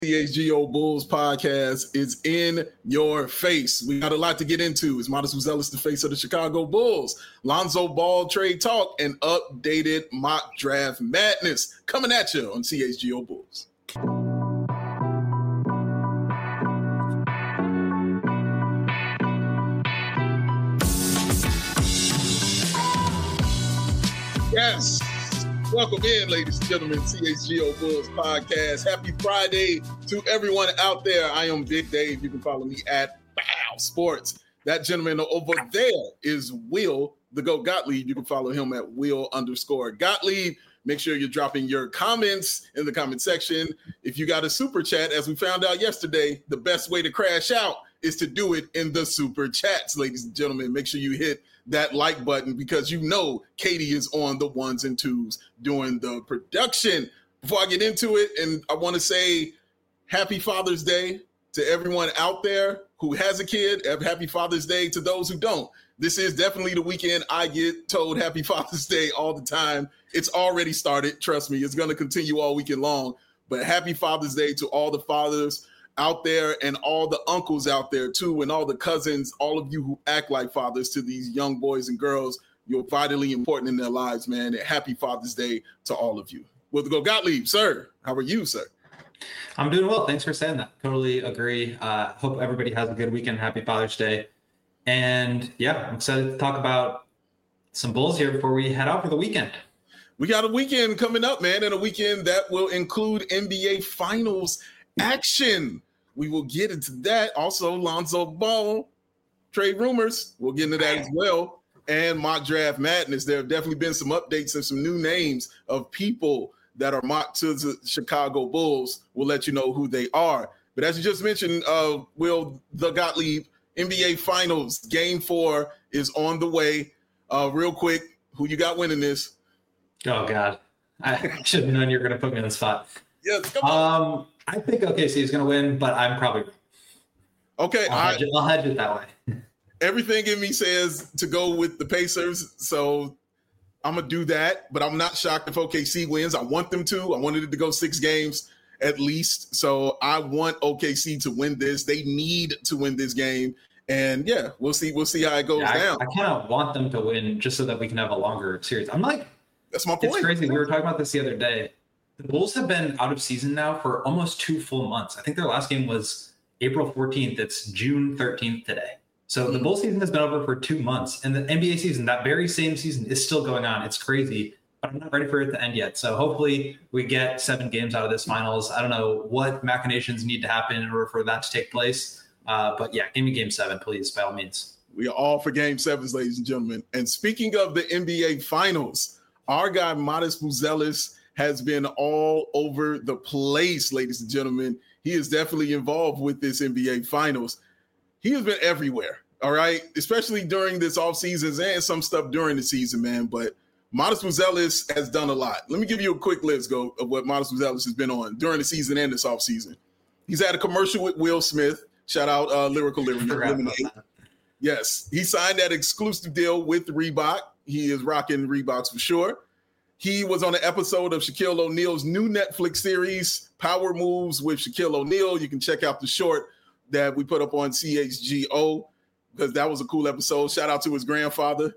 CHGO Bulls podcast is in your face. We got a lot to get into. It's Modest Buzelis, the face of the Chicago Bulls, Lonzo Ball trade talk, and updated mock draft madness coming at you on CHGO Bulls. Yes. Welcome in, ladies and gentlemen, CHGO Bulls podcast. Happy Friday to everyone out there. I am Big Dave. You can follow me at Bow Sports. That gentleman over there is Will, the GOAT Gottlieb. You can follow him at Will_Gottlieb. Make sure you're dropping your comments in the comment section. If you got a super chat, as we found out yesterday, the best way to crash out is to do it in the super chats, ladies and gentlemen. Make sure you hit that like button because you know Katie is on the ones and twos doing the production. Before I get into it, and I want to say happy Father's Day to everyone out there who has a kid. Happy Father's Day to those who don't. This is definitely the weekend I get told happy Father's Day all the time. It's already started. Trust me, it's going to continue all weekend long. But happy Father's Day to all the fathers out there and all the uncles out there too, and all the cousins, all of you who act like fathers to these young boys and girls. You're vitally important in their lives, man. And happy Father's Day to all of you. Will the GOAT Gottlieb, sir. How are you, sir? I'm doing well. Thanks for saying that. Totally agree. Hope everybody has a good weekend. Happy Father's Day. And yeah, I'm excited to talk about some Bulls here before we head out for the weekend. We got a weekend coming up, man, and a weekend that will include NBA Finals action. We will get into that. Also, Lonzo Ball trade rumors. We'll get into that as well. And mock draft madness. There have definitely been some updates and some new names of people that are mocked to the Chicago Bulls. We'll let you know who they are. But as you just mentioned, Will the Gottlieb, NBA Finals Game 4 is on the way. Real quick, who you got winning this? Oh, God. I should have known you were going to put me on the spot. Yes, come on. I think OKC is going to win, but I'm probably okay. I'll hedge it that way. Everything in me says to go with the Pacers, so I'm gonna do that. But I'm not shocked if OKC wins. I want them to. I wanted it to go 6 games at least, so I want OKC to win this. They need to win this game, and yeah, we'll see. We'll see how it goes down. I kind of want them to win just so that we can have a longer series. I'm like, that's my point. It's crazy. We were talking about this the other day. The Bulls have been out of season now for almost 2 full months. I think their last game was April 14th. It's June 13th today. So the Bulls season has been over for 2 months. And the NBA season, that very same season, is still going on. It's crazy. But I'm not ready for it to end yet. So hopefully we get 7 games out of this finals. I don't know what machinations need to happen in order for that to take place. But yeah, give me game 7, please, by all means. We are all for game 7s, ladies and gentlemen. And speaking of the NBA finals, our guy Modest Buzelis has been all over the place, ladies and gentlemen. He is definitely involved with this NBA Finals. He has been everywhere, all right, especially during this offseason and some stuff during the season, man. But Modest Buzelis has done a lot. Let me give you a quick list of what Modest Buzelis has been on during the season and this offseason. He's had a commercial with Will Smith. Shout out Lyrical Lemonade. Yes, he signed that exclusive deal with Reebok. He is rocking Reeboks for sure. He was on an episode of Shaquille O'Neal's new Netflix series, Power Moves with Shaquille O'Neal. You can check out the short that we put up on CHGO because that was a cool episode. Shout out to his grandfather.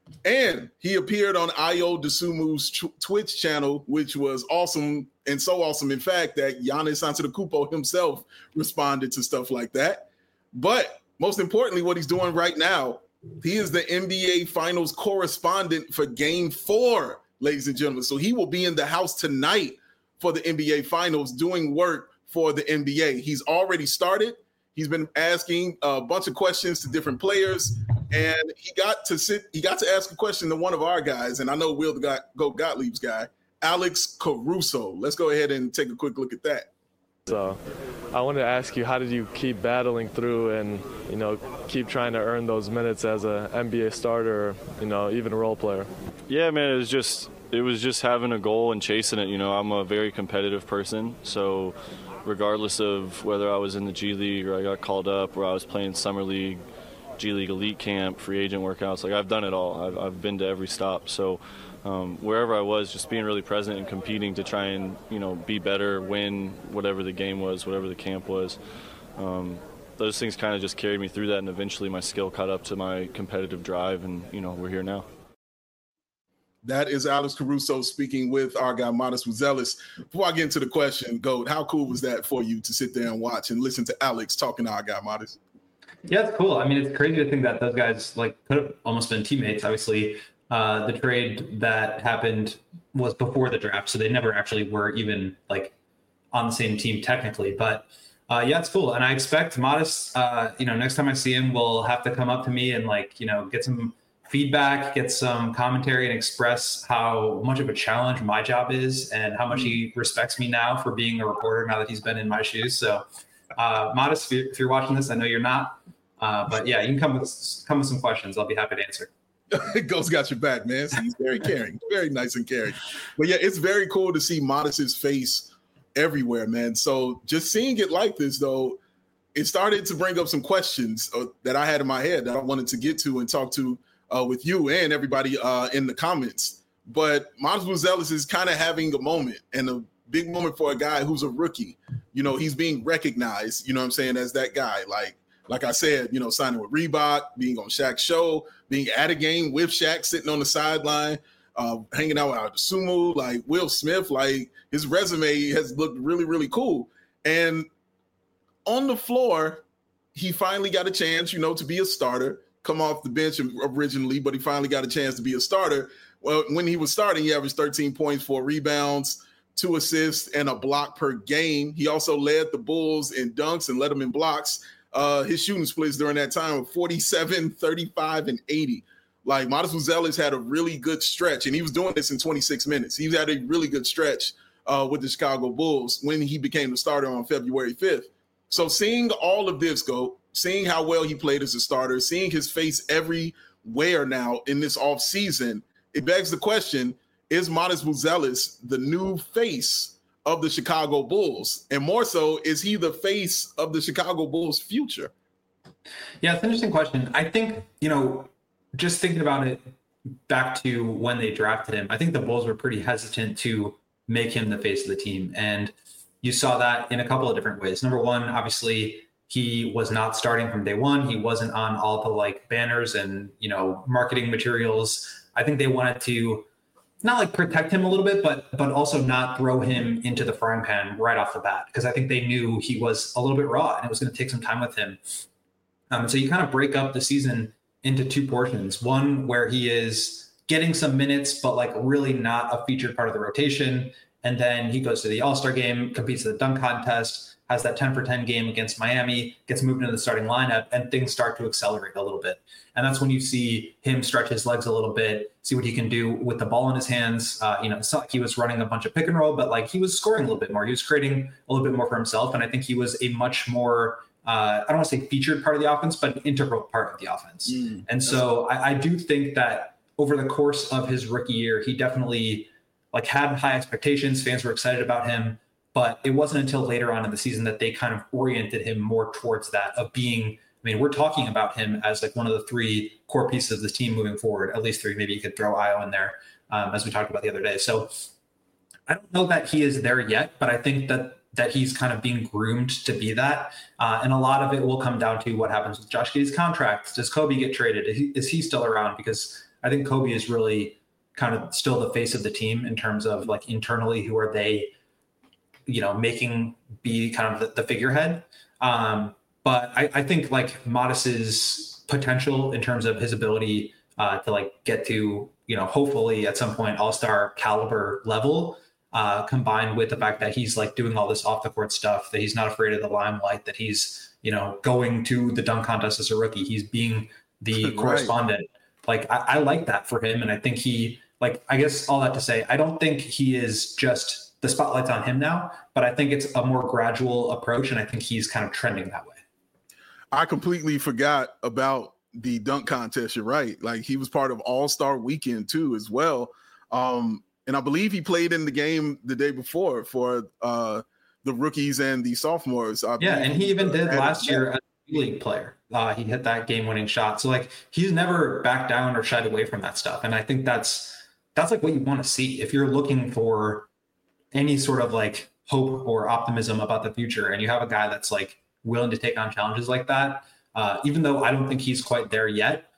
And he appeared on Ayo Dosunmu's Twitch channel, which was awesome, and so awesome, in fact, that Giannis Antetokounmpo himself responded to stuff like that. But most importantly, what he's doing right now, he is the NBA Finals correspondent for Game 4. Ladies and gentlemen. So he will be in the house tonight for the NBA Finals doing work for the NBA. He's already started. He's been asking a bunch of questions to different players, and he got to ask a question to one of our guys, and I know Will the GOAT Gottlieb's guy, Alex Caruso. Let's go ahead and take a quick look at that. So I wanted to ask you, how did you keep battling through and, keep trying to earn those minutes as an NBA starter, or, even a role player? Yeah, man, it was just having a goal and chasing it. I'm a very competitive person, so regardless of whether I was in the G League or I got called up or I was playing Summer League, G League Elite Camp, free agent workouts, I've done it all. I've been to every stop. So wherever I was, just being really present and competing to try and, be better, win whatever the game was, whatever the camp was. Those things kind of just carried me through that, and eventually my skill caught up to my competitive drive, and, we're here now. That is Alex Caruso speaking with our guy, Matas Buzelis. Before I get into the question, Goat, how cool was that for you to sit there and watch and listen to Alex talking to our guy, Matas? Yeah, it's cool. I mean, it's crazy to think that those guys could have almost been teammates. Obviously, the trade that happened was before the draft, so they never actually were even on the same team technically. But yeah, it's cool. And I expect Matas, next time I see him, will have to come up to me and get some feedback, get some commentary, and express how much of a challenge my job is and how much he respects me now for being a reporter now that he's been in my shoes. So Matas, if you're watching this, I know you're not, but yeah, you can come with some questions. I'll be happy to answer. Ghost got your back, man. So he's very caring, very nice and caring. But yeah, it's very cool to see Matas's face everywhere, man. So just seeing it like this, though, it started to bring up some questions that I had in my head that I wanted to get to and talk to with you and everybody in the comments. But Matas Buzelis is kind of having a moment, and a big moment for a guy who's a rookie. He's being recognized, as that guy. Like I said, signing with Reebok, being on Shaq's show, being at a game with Shaq, sitting on the sideline, hanging out with Sumu, like Will Smith. His resume has looked really, really cool. And on the floor, he finally got a chance, to be a starter, come off the bench originally, but he finally got a chance to be a starter. Well, when he was starting, he averaged 13 points, 4 rebounds, 2 assists, and a block per game. He also led the Bulls in dunks and led them in blocks. His shooting splits during that time were 47, 35, and 80. Matas Buzelis had a really good stretch, and he was doing this in 26 minutes. He had a really good stretch with the Chicago Bulls when he became the starter on February 5th. So seeing all of this seeing how well he played as a starter, seeing his face everywhere now in this offseason, it begs the question, is Matas Buzelis the new face of the Chicago Bulls? And more so, is he the face of the Chicago Bulls' future? Yeah, it's an interesting question. I think, just thinking about it back to when they drafted him, I think the Bulls were pretty hesitant to make him the face of the team. And you saw that in a couple of different ways. Number one, obviously, he was not starting from day one. He wasn't on all the banners and, marketing materials. I think they wanted to not protect him a little bit, but also not throw him into the frying pan right off the bat, because I think they knew he was a little bit raw and it was going to take some time with him. So you kind of break up the season into 2 portions. One where he is getting some minutes, but really not a featured part of the rotation. And then he goes to the All-Star game, competes in the dunk contest, has that 10 for 10 game against Miami, gets moved into the starting lineup, and things start to accelerate a little bit. And that's when you see him stretch his legs a little bit, see what he can do with the ball in his hands. It's not like he was running a bunch of pick and roll, but he was scoring a little bit more. He was creating a little bit more for himself. And I think he was a much more, I don't want to say featured part of the offense, but an integral part of the offense. And so I do think that over the course of his rookie year, he definitely had high expectations. Fans were excited about him. But it wasn't until later on in the season that they kind of oriented him more towards that of being, we're talking about him as one of the 3 core pieces of the team moving forward, at least 3. Maybe you could throw Ayo in there, as we talked about the other day. So I don't know that he is there yet, but I think that he's kind of being groomed to be that. And a lot of it will come down to what happens with Josh Giddey's contract. Does Kobe get traded? Is he still around? Because I think Kobe is really kind of still the face of the team in terms of internally, who are they, making be kind of the figurehead. But I think Matas's potential in terms of his ability to get to, hopefully at some point all-star caliber level, combined with the fact that he's doing all this off the court stuff, that he's not afraid of the limelight, that he's, going to the dunk contest as a rookie, he's being the correspondent. I like that for him. And I think he, I guess all that to say, I don't think he is just the spotlight's on him now, but I think it's a more gradual approach, and I think he's kind of trending that way. I completely forgot about the dunk contest. You're right. He was part of All-Star Weekend too, as well. And I believe he played in the game the day before for the rookies and the sophomores. Yeah, and he even did last year as a league player. He hit that game-winning shot. So he's never backed down or shied away from that stuff, and I think that's that's like what you want to see. If you're looking for any sort of like hope or optimism about the future, and you have a guy that's like willing to take on challenges like that, even though I don't think he's quite there yet,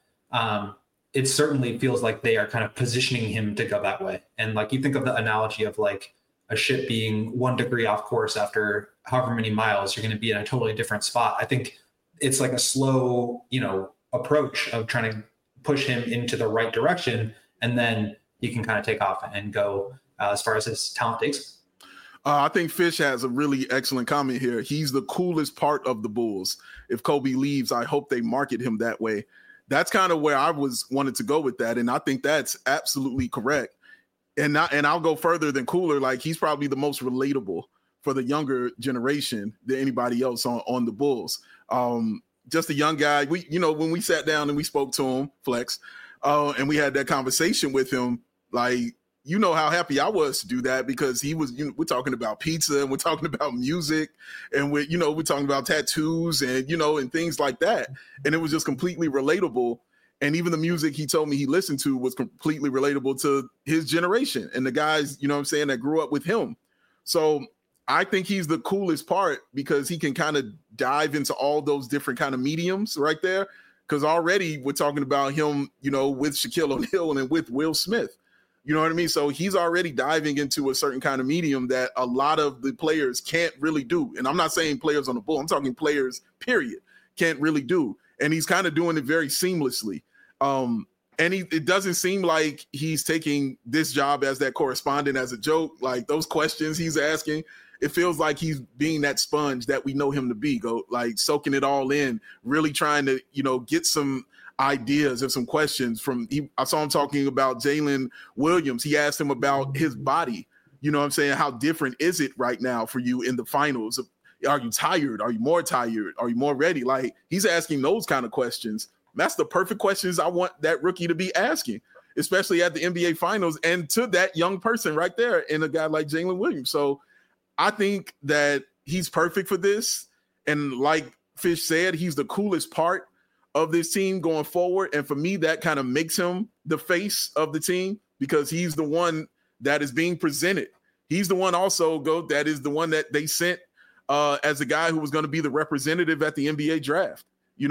it certainly feels like they are kind of positioning him to go that way. And like you think of the analogy of like a ship being 1 degree off course after however many miles, you're going to be in a totally different spot. I think it's like a slow, approach of trying to push him into the right direction, and then he can kind of take off and go as far as his talent takes him. I think Fish has a really excellent comment here. He's the coolest part of the Bulls. If Kobe leaves, I hope they market him that way. That's kind of where I wanted to go with that, and I think that's absolutely correct. And I'll go further than cooler. Like, he's probably the most relatable for the younger generation than anybody else on the Bulls. Just a young guy. When we sat down and we spoke to him, Flex, and we had that conversation with him, like, how happy I was to do that, because he was, we're talking about pizza and we're talking about music, and we're talking about tattoos and, and things like that. And it was just completely relatable. And even the music he told me he listened to was completely relatable to his generation and the guys, that grew up with him. So I think he's the coolest part, because he can kind of dive into all those different kind of mediums right there. Because already we're talking about him, with Shaquille O'Neal and with Will Smith. You know what I mean? So he's already diving into a certain kind of medium that a lot of the players can't really do. And I'm not saying players on the Bull, I'm talking players, period, can't really do. And he's kind of doing it very seamlessly. And it doesn't seem like he's taking this job as that correspondent as a joke. Like, those questions he's asking, it feels like he's being that sponge that we know him to be, soaking it all in, really trying to, get some ideas of some questions I saw him talking about Jalen Williams. He asked him about his body. How different is it right now for you in the finals? Are you tired? Are you more tired? Are you more ready? Like, he's asking those kind of questions. That's the perfect questions I want that rookie to be asking, especially at the NBA finals, and to that young person right there in a guy like Jalen Williams. So I think that he's perfect for this. And like Fish said, he's the coolest part of this team going forward. And for me, that kind of makes him the face of the team, because he's the one that is being presented. He's the one also, that is the one that they sent as a guy who was going to be the representative at the NBA draft.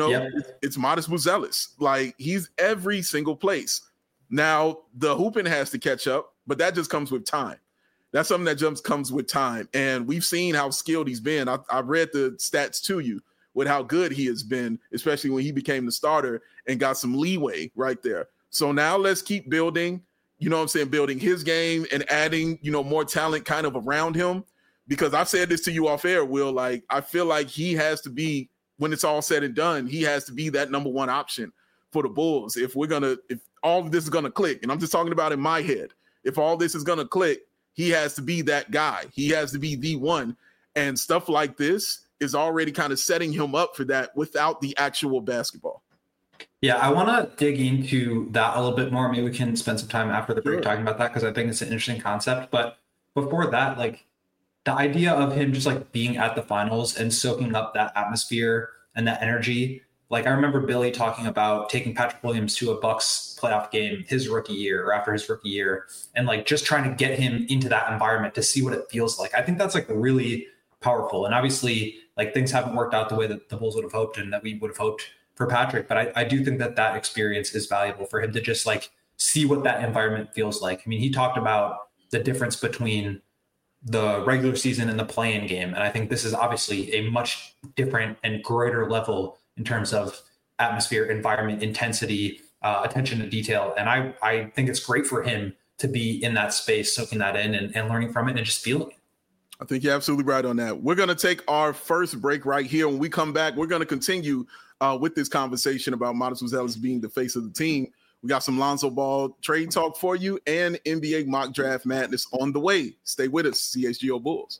It's Modest Buzelis. Like, he's every single place. Now, the hooping has to catch up, but that just comes with time. That's something that just comes with time. And we've seen how skilled he's been. I read the stats to you with how good he has been, especially when he became the starter and got some leeway right there. So now let's keep building, building his game and adding, more talent kind of around him. Because I've said this to you off air, Will, like, I feel like he has to be, when it's all said and done, he has to be that number one option for the Bulls. If all of this is going to click, and I'm just talking about in my head, if all this is going to click, he has to be that guy. He has to be the one. And stuff like this is already kind of setting him up for that without the actual basketball. Yeah, I want to dig into that a little bit more. Maybe we can spend some time after the break talking about that, because I think it's an interesting concept. But before that, like, the idea of him just like being at the finals and soaking up that atmosphere and that energy. Like, I remember Billy talking about taking Patrick Williams to a Bucks playoff game his rookie year or after his rookie year, and like just trying to get him into that environment to see what it feels like. I think that's like really powerful. And obviously, like, things haven't worked out the way that the Bulls would have hoped and that we would have hoped for Patrick. But I do think that experience is valuable for him to just like see what that environment feels like. I mean, he talked about the difference between the regular season and the play-in game. And I think this is obviously a much different and greater level in terms of atmosphere, environment, intensity, attention to detail. And I think it's great for him to be in that space, soaking that in and learning from it and just feeling it. I think you're absolutely right on that. We're going to take our first break right here. When we come back, we're going to continue with this conversation about Modest Buzelis being the face of the team. We got some Lonzo Ball trade talk for you and NBA mock draft madness on the way. Stay with us, CHGO Bulls.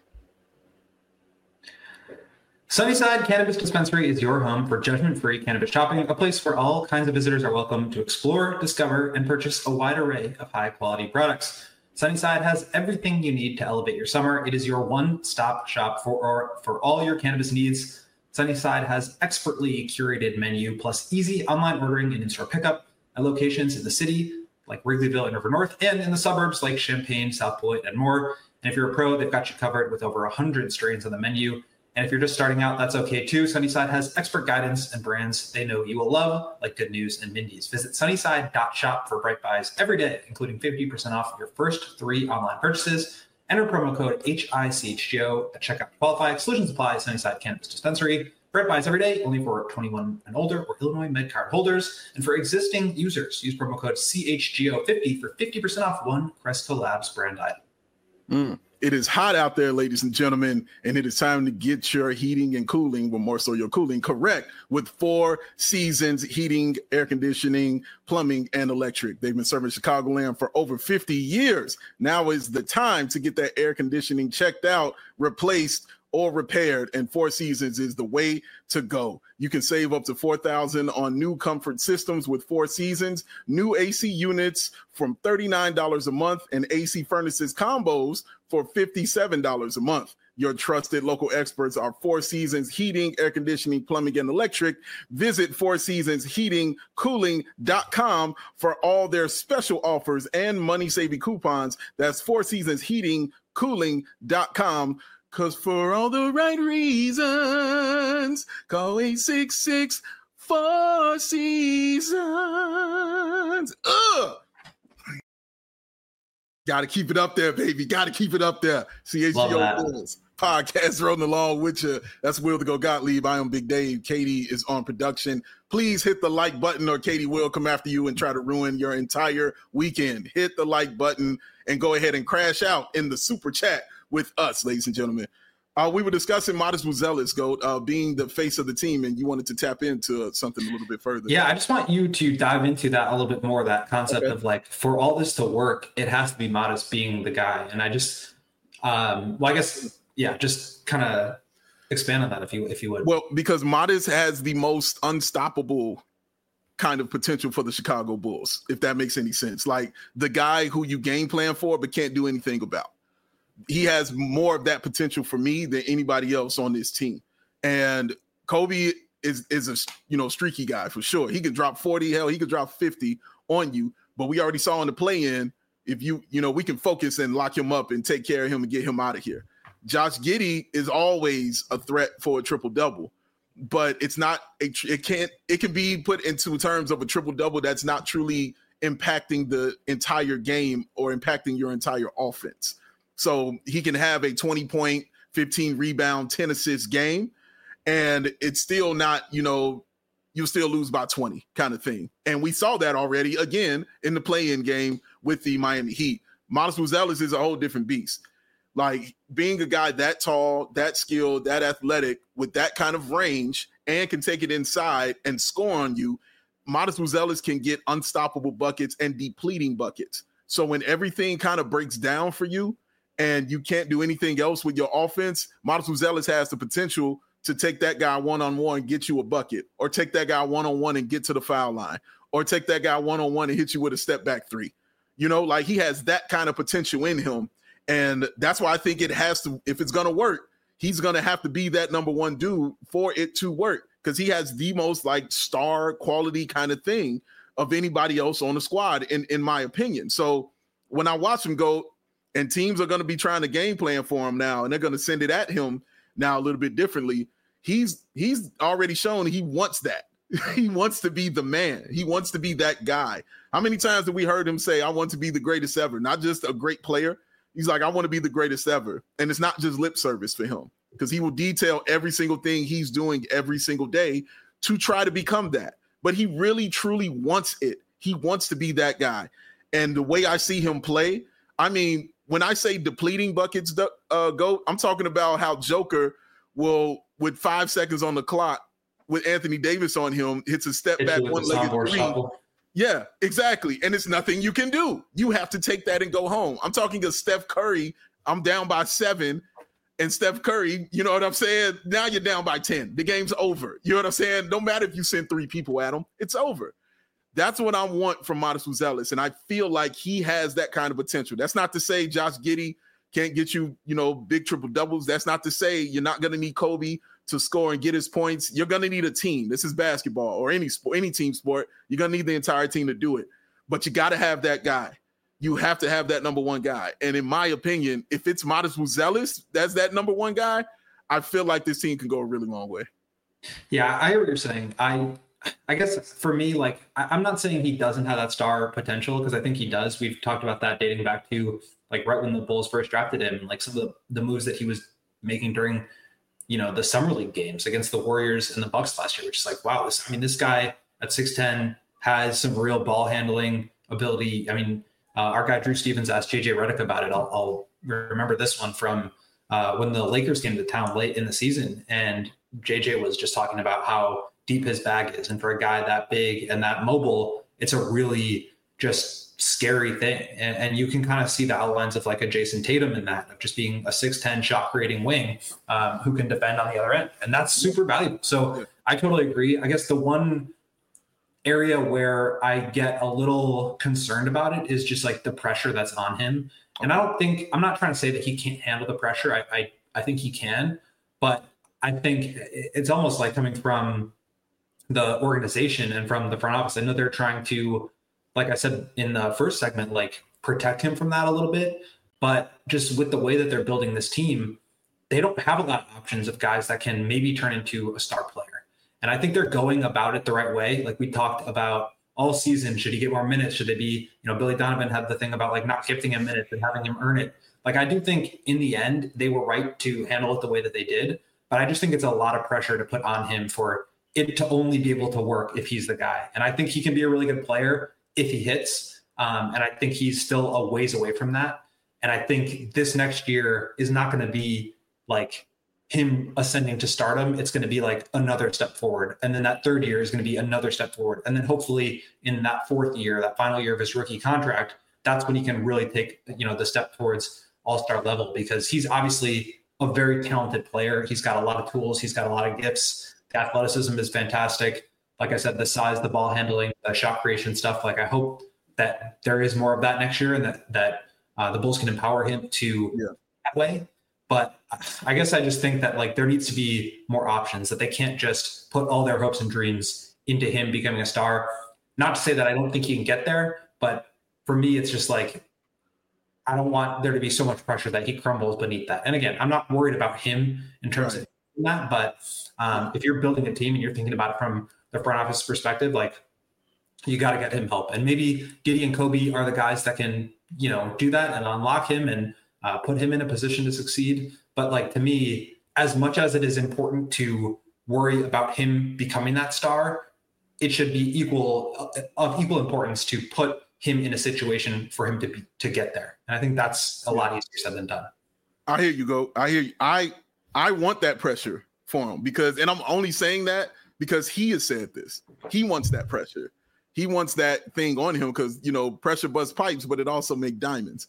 Sunnyside Cannabis Dispensary is your home for judgment-free cannabis shopping, a place where all kinds of visitors are welcome to explore, discover, and purchase a wide array of high-quality products. Sunnyside has everything you need to elevate your summer. It is your one-stop shop for all your cannabis needs. Sunnyside has expertly curated menu plus easy online ordering and in-store pickup at locations in the city like Wrigleyville and River North, and in the suburbs like Champaign, South Beloit, and more. And if you're a pro, they've got you covered with over 100 strains on the menu. And if you're just starting out, that's okay too. Sunnyside has expert guidance and brands they know you will love, like Good News and Mindy's. Visit sunnyside.shop for Bright Buys every day, including 50% off your first 3 online purchases. Enter promo code HICHGO at checkout to qualify. Exclusions apply. Sunnyside Cannabis Dispensary. Bright Buys every day, only for 21 and older or Illinois MedCard holders. And for existing users, use promo code CHGO50 for 50% off one Cresco Labs brand item. It is hot out there, ladies and gentlemen, and it is time to get your heating and cooling, well, more so your cooling, correct with 4 Seasons Heating, Air Conditioning, Plumbing, and Electric. They've been serving Chicagoland for over 50 years. Now is the time to get that air conditioning checked out, replaced, or repaired, and 4 Seasons is the way to go. You can save up to $4,000 on new comfort systems with 4 Seasons, new AC units from $39 a month, and AC furnaces combos for $57 a month. Your trusted local experts are 4 Seasons Heating, Air Conditioning, Plumbing, and Electric. Visit 4seasonsheatingcooling.com for all their special offers and money-saving coupons. That's 4 seasonsheatingcooling.com. Because for all the right reasons, call 866 4 Seasons. Got to keep it up there, baby. Got to keep it up there. CHGO Bulls podcast rolling along with you. That's Will to Go Gottlieb. I am Big Dave. Katie is on production. Please hit the like button or Katie will come after you and try to ruin your entire weekend. Hit the like button and go ahead and crash out in the super chat with us, ladies and gentlemen. We were discussing Modest Buzelis, Goat, being the face of the team, and you wanted to tap into something a little bit further. Yeah, I just want you to dive into that a little bit more, that concept of like, for all this to work, it has to be Modest being the guy. And I just, just kind of expand on that if you would. Well, because Modest has the most unstoppable kind of potential for the Chicago Bulls, if that makes any sense. Like the guy who you game plan for but can't do anything about. He has more of that potential for me than anybody else on this team. And Kobe is a streaky guy for sure. He could drop 40, hell, he could drop 50 on you. But we already saw in the play-in, if we can focus and lock him up and take care of him and get him out of here. Josh Giddey is always a threat for a triple-double, but it's not it can be put into terms of a triple-double that's not truly impacting the entire game or impacting your entire offense. So he can have a 20-point, 15 rebound, 10 assist game, and it's still not, you'll still lose by 20 kind of thing. And we saw that already again in the play-in game with the Miami Heat. Modest Buzelis is a whole different beast. Like being a guy that tall, that skilled, that athletic with that kind of range and can take it inside and score on you, Modest Buzelis can get unstoppable buckets and depleting buckets. So when everything kind of breaks down for you, and you can't do anything else with your offense, Modest Buzelis has the potential to take that guy one-on-one and get you a bucket, or take that guy one-on-one and get to the foul line, or take that guy one-on-one and hit you with a step-back 3. Like he has that kind of potential in him, and that's why I think it has to, if it's going to work, he's going to have to be that number one dude for it to work, because he has the most like star quality kind of thing of anybody else on the squad, in my opinion. So when I watch him go, and teams are going to be trying to game plan for him now, and they're going to send it at him now a little bit differently. He's already shown he wants that. He wants to be the man. He wants to be that guy. How many times have we heard him say, I want to be the greatest ever? Not just a great player. He's like, I want to be the greatest ever. And it's not just lip service for him, because he will detail every single thing he's doing every single day to try to become that. But he really, truly wants it. He wants to be that guy. And the way I see him play, I mean, when I say depleting buckets, Goat, I'm talking about how Joker will, with 5 seconds on the clock, with Anthony Davis on him, hits a step back one-legged 3. Yeah, exactly. And it's nothing you can do. You have to take that and go home. I'm talking of Steph Curry. I'm down by 7, and Steph Curry, you know what I'm saying? Now you're down by 10. The game's over. You know what I'm saying? No matter if you send 3 people at him, it's over. That's what I want from Modest Buzelis, and I feel like he has that kind of potential. That's not to say Josh Giddey can't get you, big triple doubles. That's not to say you're not going to need Kobe to score and get his points. You're going to need a team. This is basketball or any sport, any team sport. You're going to need the entire team to do it. but you got to have that guy. You have to have that number one guy. And in my opinion, if it's Modest Buzelis, that's that number one guy, I feel like this team can go a really long way. Yeah, I hear what you're saying. I guess for me, like, I'm not saying he doesn't have that star potential, because I think he does. We've talked about that dating back to like right when the Bulls first drafted him, like some of the moves that he was making during, the summer league games against the Warriors and the Bucks last year, which is like, wow, this guy at 6'10" has some real ball handling ability. I mean, our guy Drew Stevens asked JJ Redick about it. I'll remember this one from when the Lakers came to town late in the season, and JJ was just talking about how deep his bag is. And for a guy that big and that mobile, it's a really just scary thing. And you can kind of see the outlines of like a Jason Tatum in that, of just being a 6'10" shot creating wing who can defend on the other end. And that's super valuable. So I totally agree. I guess the one area where I get a little concerned about it is just like the pressure that's on him. And I'm not trying to say that he can't handle the pressure. I think he can, but I think it's almost like coming from the organization and from the front office. I know they're trying to, like I said in the first segment, like protect him from that a little bit, but just with the way that they're building this team, they don't have a lot of options of guys that can maybe turn into a star player. And I think they're going about it the right way. Like we talked about all season, should he get more minutes? Should they be, Billy Donovan had the thing about like not gifting him minutes and having him earn it. Like I do think in the end, they were right to handle it the way that they did, but I just think it's a lot of pressure to put on him for it to only be able to work if he's the guy. And I think he can be a really good player if he hits. And I think he's still a ways away from that. And I think this next year is not going to be like him ascending to stardom. It's going to be like another step forward. And then that third year is going to be another step forward. And then hopefully in that fourth year, that final year of his rookie contract, that's when he can really take, the step towards all-star level, because he's obviously a very talented player. He's got a lot of tools. He's got a lot of gifts. The athleticism is fantastic. Like I said, the size, the ball handling, the shot creation stuff. Like I hope that there is more of that next year, and that the Bulls can empower him to that way. But I guess I just think that like there needs to be more options, that they can't just put all their hopes and dreams into him becoming a star. Not to say that I don't think he can get there, but for me, it's just like, I don't want there to be so much pressure that he crumbles beneath that. And again, I'm not worried about him in terms of that, but if you're building a team and you're thinking about it from the front office perspective, like you got to get him help. And maybe Giddey and Kobe are the guys that can, do that and unlock him and put him in a position to succeed. But like, to me, as much as it is important to worry about him becoming that star, it should be of equal importance to put him in a situation for him to get there. And I think that's a lot easier said than done. I hear you go. I hear you. I want that pressure for him and I'm only saying that because he has said this. He wants that pressure. He wants that thing on him because, pressure busts pipes, but it also makes diamonds,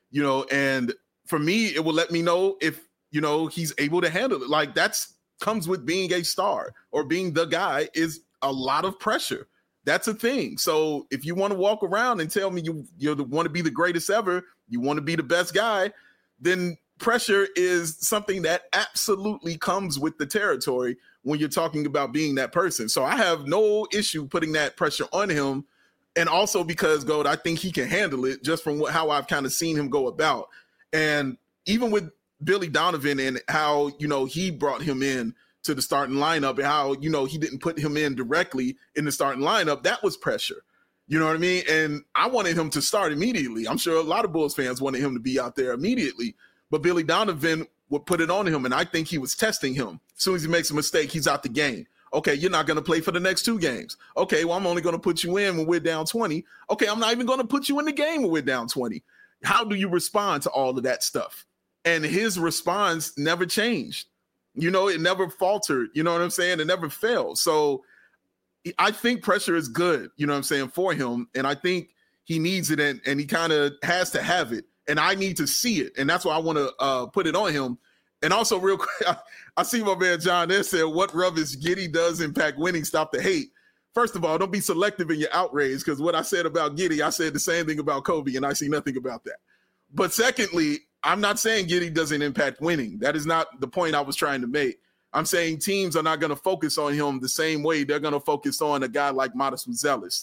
and for me, it will let me know if, he's able to handle it. Like comes with being a star or being the guy is a lot of pressure. That's a thing. So if you want to walk around and tell me you want to be the greatest ever, you want to be the best guy, then pressure is something that absolutely comes with the territory when you're talking about being that person. So I have no issue putting that pressure on him. And also because, Gold, I think he can handle it just from how I've kind of seen him go about. And even with Billy Donovan and how, he brought him in to the starting lineup and how, he didn't put him in directly in the starting lineup, that was pressure. You know what I mean? And I wanted him to start immediately. I'm sure a lot of Bulls fans wanted him to be out there immediately. But Billy Donovan would put it on him, and I think he was testing him. As soon as he makes a mistake, he's out the game. Okay, you're not going to play for the next 2 games. Okay, well, I'm only going to put you in when we're down 20. Okay, I'm not even going to put you in the game when we're down 20. How do you respond to all of that stuff? And his response never changed. It never faltered. You know what I'm saying? It never failed. So I think pressure is good, for him. And I think he needs it, and he kind of has to have it. And I need to see it. And that's why I want to put it on him. And also, real quick, I see my man John there said, what rubbish Giddey does impact winning, stop the hate. First of all, don't be selective in your outrage, because what I said about Giddey, I said the same thing about Kobe, and I see nothing about that. But secondly, I'm not saying Giddey doesn't impact winning. That is not the point I was trying to make. I'm saying teams are not going to focus on him the same way they're going to focus on a guy like Modest Buzelis.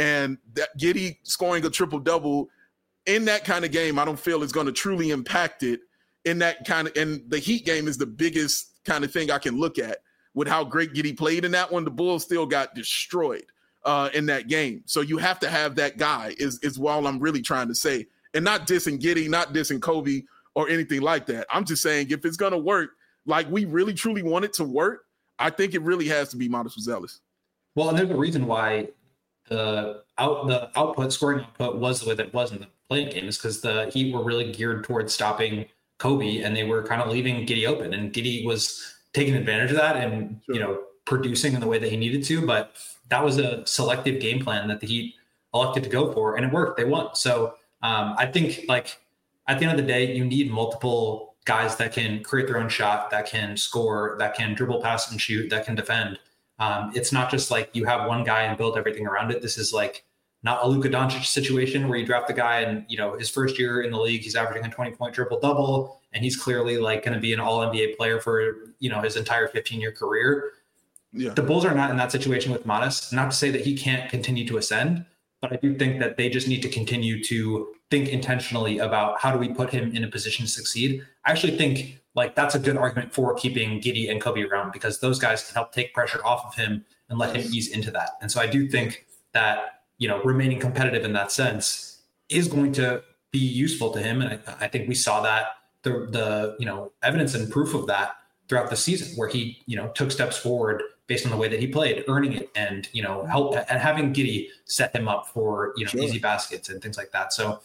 And that Giddey scoring a triple-double in that kind of game, I don't feel is going to truly impact it in that kind of – and the Heat game is the biggest kind of thing I can look at with how great Giddey played in that one. The Bulls still got destroyed in that game. So you have to have that guy is all I'm really trying to say. And not dissing Giddey, not dissing Kobe or anything like that. I'm just saying if it's going to work, like we really truly want it to work, I think it really has to be Modest Buzelis. Well, and there's a reason why the scoring output was the way that it was in the playing game is because the Heat were really geared towards stopping Kobe, and they were kind of leaving Giddey open, and Giddey was taking advantage of that and producing in the way that he needed to. But that was a selective game plan that the Heat elected to go for, and it worked. They won. So I think like at the end of the day, you need multiple guys that can create their own shot, that can score, that can dribble, pass, and shoot, that can defend. It's not just like you have one guy and build everything around it. This is like not a Luka Doncic situation where you draft the guy and, his first year in the league, he's averaging a 20-point triple-double, and he's clearly like going to be an all-NBA player for, his entire 15-year career. Yeah. The Bulls are not in that situation with Modest. Not to say that he can't continue to ascend, but I do think that they just need to continue to think intentionally about how do we put him in a position to succeed. I actually think like that's a good argument for keeping Giddey and Kobe around because those guys can help take pressure off of him and let him ease into that. And so I do think that, remaining competitive in that sense is going to be useful to him. And I think we saw that the evidence and proof of that throughout the season where he, took steps forward based on the way that he played, earning it and, help and having Giddey set him up for, easy baskets and things like that. So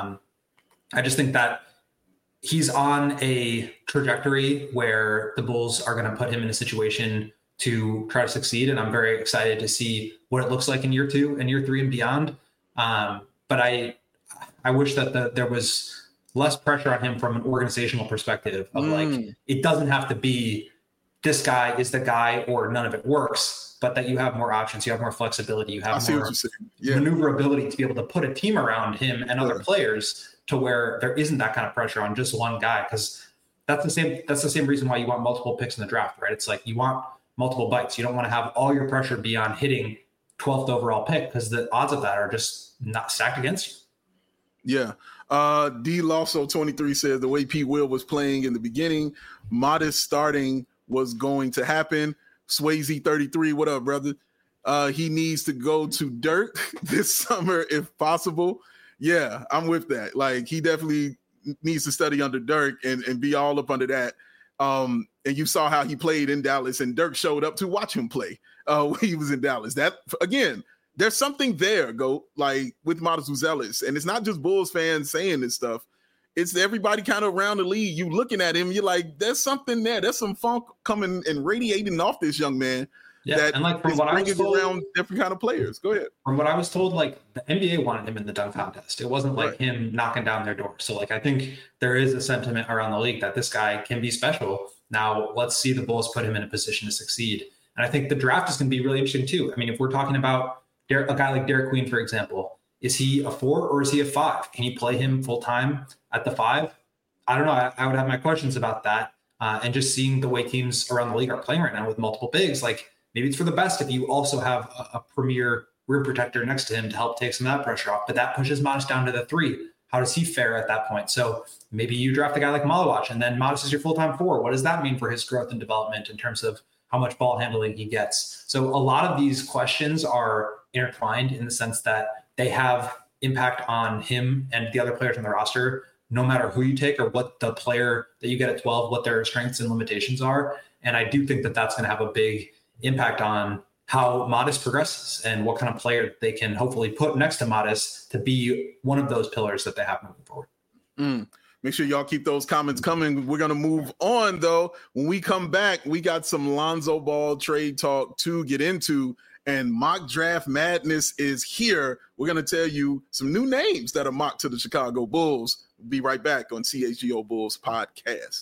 I just think that he's on a trajectory where the Bulls are going to put him in a situation to try to succeed. And I'm very excited to see what it looks like in year 2 and year 3 and beyond. But I wish that there was less pressure on him from an organizational perspective of like, it doesn't have to be this guy is the guy or none of it works, but that you have more options, you have more flexibility, you have more maneuverability to be able to put a team around him and other players to where there isn't that kind of pressure on just one guy. Cause that's the same reason why you want multiple picks in the draft, right? It's like you want multiple bites. You don't want to have all your pressure be on hitting 12th overall pick because the odds of that are just not stacked against you. Yeah. D Losso 23 says the way Pete Will was playing in the beginning, Modest starting was going to happen. Swayze 33, what up, brother? He needs to go to Dirk this summer if possible. Yeah, I'm with that. Like he definitely needs to study under Dirk and be all up under that. And you saw how he played in Dallas, and Dirk showed up to watch him play when he was in Dallas. That again, there's something there, like with Modest Buzelis, and it's not just Bulls fans saying this stuff. It's everybody kind of around the league. You looking at him, you're like, there's something there. There's some funk coming and radiating off this young man. Yeah, that and like from what I was told, around different kind of players. Go ahead. From what I was told, like the NBA wanted him in the dunk contest. It wasn't like him knocking down their door. So like I think there is a sentiment around the league that this guy can be special. Now let's see the Bulls put him in a position to succeed. And I think the draft is going to be really interesting too. I mean, if we're talking about a guy like Derek Queen, for example, is he a 4 or is he a 5? Can you play him full time at the 5? I don't know. I would have my questions about that. And just seeing the way teams around the league are playing right now with multiple bigs, like maybe it's for the best if you also have a premier rim protector next to him to help take some of that pressure off. But that pushes Modest down to the 3. How does he fare at that point? So maybe you draft a guy like Malawach and then Modest is your full-time 4. What does that mean for his growth and development in terms of how much ball handling he gets? So a lot of these questions are intertwined in the sense that they have impact on him and the other players on the roster, no matter who you take or what the player that you get at 12, what their strengths and limitations are. And I do think that that's going to have a big impact on how Modest progresses and what kind of player they can hopefully put next to Modest to be one of those pillars that they have moving forward. Make sure y'all keep those comments coming. We're going to move on, though. When we come back, we got some Lonzo Ball trade talk to get into, and mock draft madness is here. We're going to tell you some new names that are mocked to the Chicago Bulls. We'll be right back on CHGO Bulls podcast.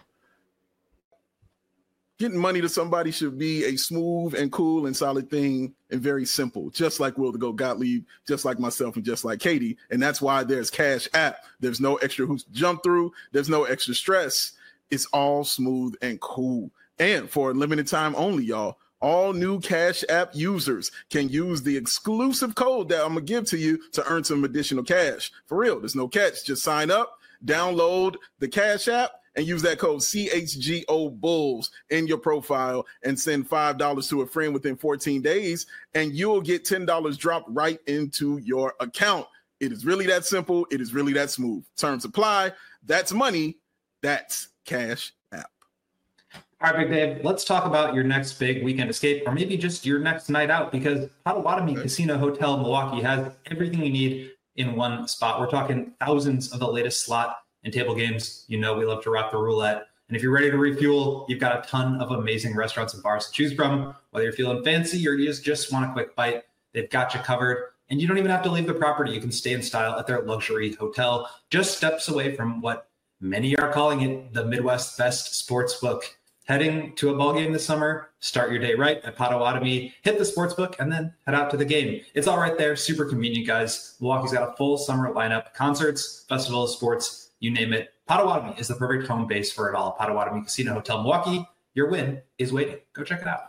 Getting money to somebody should be a smooth and cool and solid thing and very simple, just like Will the Go Gottlieb, just like myself, and just like Katie. And that's why there's Cash App. There's no extra hoops to jump through. There's no extra stress. It's all smooth and cool. And for a limited time only, y'all, All new Cash App users can use the exclusive code that I'm going to give to you to earn some additional cash. For real, there's no catch. Just sign up, download the Cash App, and use that code CHGO Bulls in your profile and send $5 to a friend within 14 days, and you'll get $10 dropped right into your account. It is really that simple. It is really that smooth. Terms apply. That's money. That's Cash App. All right, Big Dave, let's talk about your next big weekend escape, or maybe just your next night out, because Potawatomi Casino Hotel Milwaukee has everything you need in one spot. We're talking thousands of the latest slot and table games. You know we love to rock the roulette. And if you're ready to refuel, you've got a ton of amazing restaurants and bars to choose from. Whether you're feeling fancy or you just want a quick bite, they've got you covered. And you don't even have to leave the property. You can stay in style at their luxury hotel, just steps away from what many are calling it the Midwest's best sports book. Heading to a ball game this summer, start your day right at Potawatomi, hit the sports book, and then head out to the game. It's all right there. Super convenient, guys. Milwaukee's got a full summer lineup, concerts, festivals, sports, you name it. Potawatomi is the perfect home base for it all. Potawatomi Casino Hotel Milwaukee. Your win is waiting. Go check it out.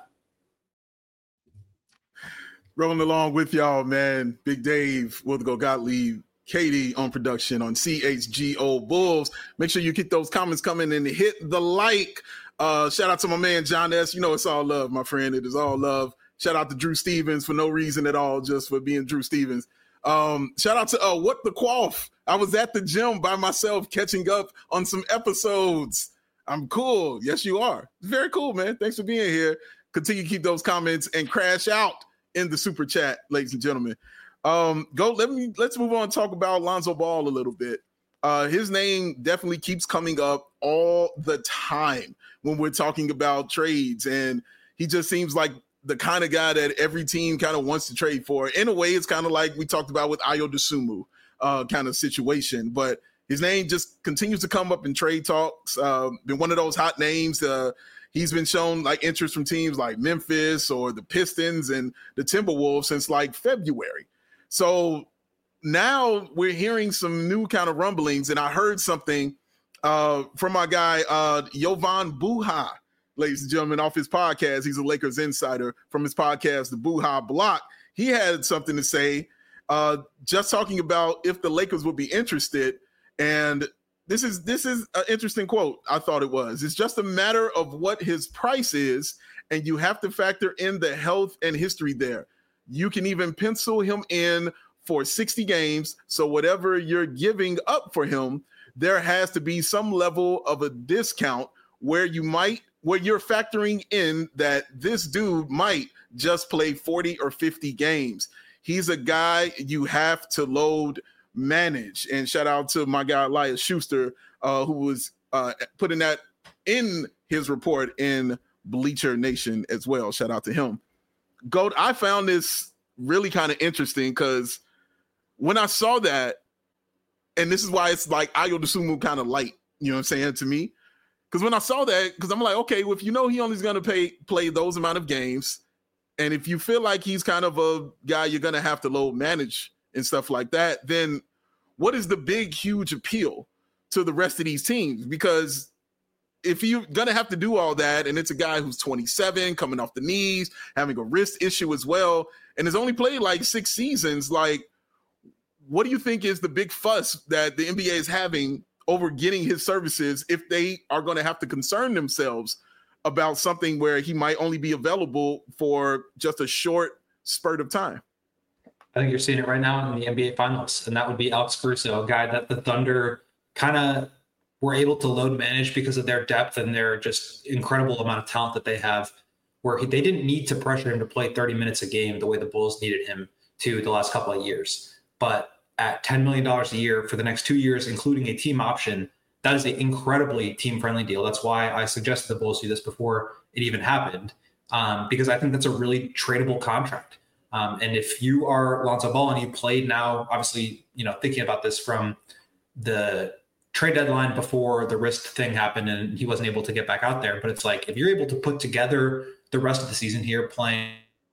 Rolling along with y'all, man. Big Dave, Wilco Gottlieb, Katie on production on CHGO Bulls. Make sure you keep those comments coming and hit the like. Shout out to my man, John S. You know it's all love, my friend. It is all love. Shout out to Drew Stevens for no reason at all, just for being Drew Stevens. Shout out to What the Quaff. I was at the gym by myself catching up on some episodes. I'm cool. Yes, you are. Very cool, man. Thanks for being here. Continue to keep those comments and crash out in the super chat, ladies and gentlemen. Let's move on and talk about Lonzo Ball a little bit. His name definitely keeps coming up all the time when we're talking about trades, and he just seems like the kind of guy that every team kind of wants to trade for. In a way, it's kind of like we talked about with Ayo Dosunmu kind of situation, but his name just continues to come up in trade talks. Been one of those hot names. He's been shown like interest from teams like Memphis or the Pistons and the Timberwolves since like February. So now we're hearing some new kind of rumblings, and I heard something from my guy, Jovan Buha, ladies and gentlemen, off his podcast. He's a Lakers insider from his podcast, the Buha Block. He had something to say, just talking about if the Lakers would be interested. And this is an interesting quote. I thought it was. It's just a matter of what his price is, and you have to factor in the health and history there. You can even pencil him in for 60 games. So whatever you're giving up for him, there has to be some level of a discount where you're factoring in that this dude might just play 40 or 50 games. He's a guy you have to load manage. And shout out to my guy, Elias Schuster, who was putting that in his report in Bleacher Nation as well. Shout out to him. Goat, I found this really kind of interesting because when I saw that, and this is why it's like Ayo Dosunmu kind of light, you know what I'm saying, to me. Because when I saw that, because I'm like, okay, well, if you know he only is going to play those amount of games, and if you feel like he's kind of a guy you're going to have to load manage and stuff like that, then what is the big, huge appeal to the rest of these teams? Because if you're going to have to do all that, and it's a guy who's 27, coming off the knees, having a wrist issue as well, and has only played like 6 seasons, like, what do you think is the big fuss that the NBA is having over getting his services if they are going to have to concern themselves about something where he might only be available for just a short spurt of time? I think you're seeing it right now in the NBA Finals, and that would be Alex Caruso, a guy that the Thunder kind of were able to load manage because of their depth and their just incredible amount of talent that they have, where they didn't need to pressure him to play 30 minutes a game the way the Bulls needed him to the last couple of years. But at $10 million a year for the next 2 years, including a team option, that is an incredibly team-friendly deal. That's why I suggested the Bulls do this before it even happened, because I think that's a really tradable contract. And if you are Lonzo Ball and you played now, obviously, thinking about this from the trade deadline before the wrist thing happened and he wasn't able to get back out there. But it's like, if you're able to put together the rest of the season here playing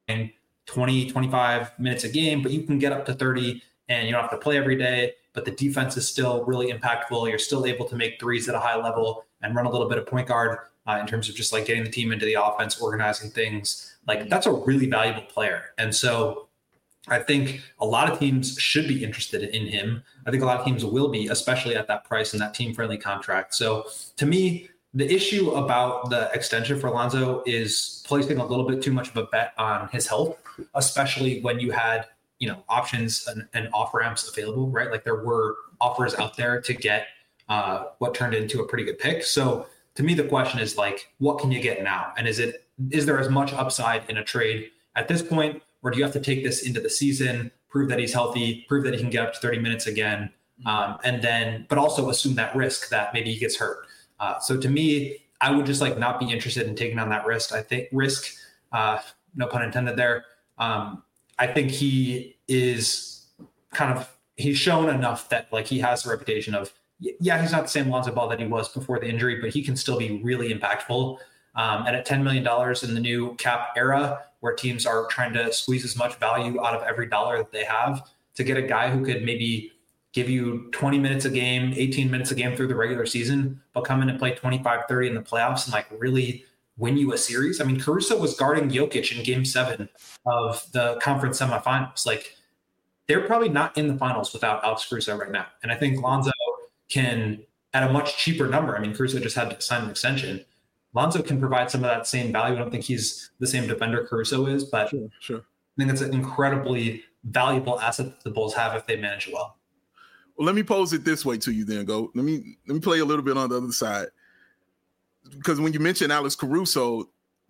20, 25 minutes a game, but you can get up to 30 and you don't have to play every day, but the defense is still really impactful. You're still able to make threes at a high level and run a little bit of point guard. in terms of just like getting the team into the offense, organizing things. Like that's a really valuable player. And so I think a lot of teams should be interested in him. I think a lot of teams will be, especially at that price and that team-friendly contract. So to me, the issue about the extension for Lonzo is placing a little bit too much of a bet on his health, especially when you had, options and off-ramps available, right? Like there were offers out there to get what turned into a pretty good pick. So to me, the question is like, what can you get now? And is there as much upside in a trade at this point, or do you have to take this into the season, prove that he's healthy, prove that he can get up to 30 minutes again, but also assume that risk that maybe he gets hurt? So to me, I would just like not be interested in taking on that risk. I think no pun intended there. I think he is he's shown enough that like he has the reputation of, yeah, he's not the same Lonzo Ball that he was before the injury, but he can still be really impactful. And at $10 million in the new cap era, where teams are trying to squeeze as much value out of every dollar that they have, to get a guy who could maybe give you 20 minutes a game, 18 minutes a game through the regular season, but come in and play 25, 30 in the playoffs and like really win you a series. I mean, Caruso was guarding Jokic in game 7 of the conference semifinals. Like they're probably not in the finals without Alex Caruso right now. And I think Lonzo can, at a much cheaper number, I mean, Caruso just had to sign an extension. Lonzo can provide some of that same value. I don't think he's the same defender Caruso is, but sure. I think it's an incredibly valuable asset that the Bulls have if they manage it well. Well, let me pose it this way to you then, Go. Let me play a little bit on the other side. Because when you mention Alex Caruso,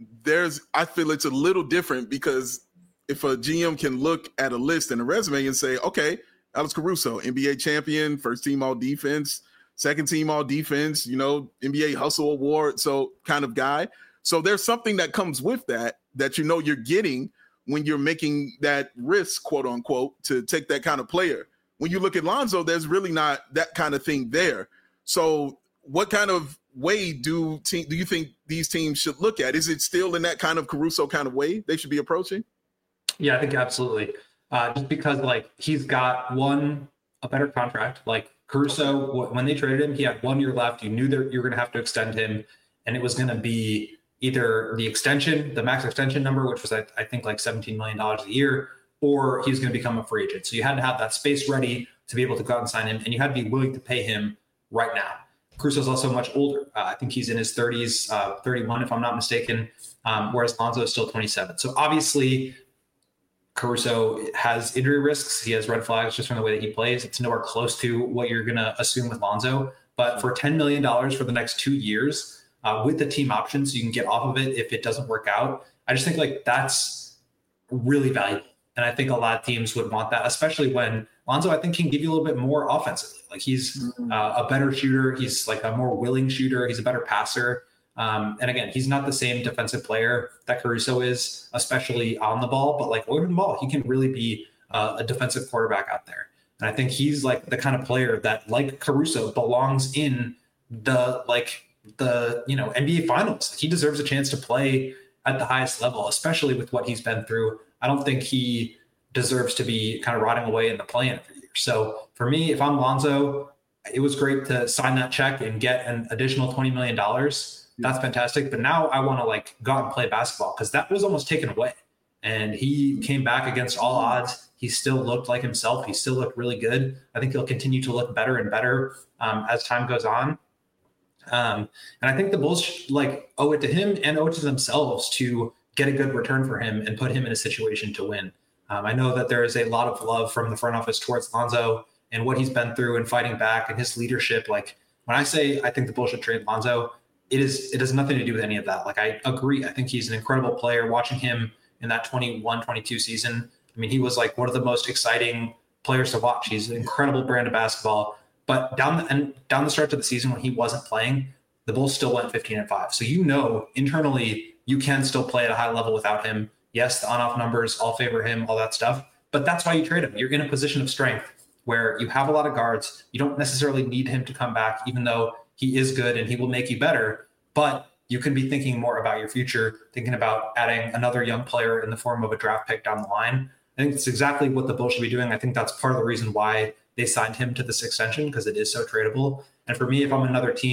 I feel it's a little different, because if a GM can look at a list and a resume and say, okay, Alex Caruso, NBA champion, first team all defense, second team all defense, NBA Hustle Award, so kind of guy. So there's something that comes with that you're getting when you're making that risk, quote unquote, to take that kind of player. When you look at Lonzo, there's really not that kind of thing there. So what kind of way do you think these teams should look at? Is it still in that kind of Caruso kind of way they should be approaching? Yeah, I think absolutely. Just because like he's got a better contract. Like Caruso, when they traded him, he had 1 year left. You knew that you were going to have to extend him, and it was going to be either the extension, the max extension number, which was I think like $17 million a year, or he was going to become a free agent. So you had to have that space ready to be able to go out and sign him, and you had to be willing to pay him right now. Caruso's also much older. I think he's in his 30s, 31 if I'm not mistaken, whereas Lonzo is still 27. So obviously Caruso has injury risks. He has red flags just from the way that he plays. It's nowhere close to what you're going to assume with Lonzo. But for $10 million for the next 2 years, with the team options, so you can get off of it if it doesn't work out. I just think like that's really valuable. And I think a lot of teams would want that, especially when Lonzo, I think, can give you a little bit more offensively. Like he's a better shooter. He's like a more willing shooter. He's a better passer. And again, he's not the same defensive player that Caruso is, especially on the ball, but like over the ball, he can really be a defensive quarterback out there. And I think he's like the kind of player that, like Caruso, belongs in the NBA finals. He deserves a chance to play at the highest level, especially with what he's been through. I don't think he deserves to be kind of rotting away in the play-in every year. So for me, if I'm Lonzo, it was great to sign that check and get an additional $20 million. That's fantastic. But now I want to like go out and play basketball, because that was almost taken away. And he came back against all odds. He still looked like himself. He still looked really good. I think he'll continue to look better and better as time goes on. And I think the Bulls owe it to him and owe it to themselves to get a good return for him and put him in a situation to win. I know that there is a lot of love from the front office towards Lonzo and what he's been through and fighting back and his leadership. Like when I say I think the Bulls should trade Lonzo, it has nothing to do with any of that. Like I agree. I think he's an incredible player. Watching him in that 21-22 season, I mean, he was like one of the most exciting players to watch. He's an incredible brand of basketball. But down the stretch of the season when he wasn't playing, the Bulls still went 15-5. So internally you can still play at a high level without him. Yes, the on-off numbers all favor him, all that stuff. But that's why you trade him. You're in a position of strength where you have a lot of guards. You don't necessarily need him to come back, even though he is good and he will make you better. But you can be thinking more about your future, thinking about adding another young player in the form of a draft pick down the line. I think it's exactly what the Bulls should be doing. I think that's part of the reason why they signed him to this extension, because it is so tradable. And for me, if I'm another team,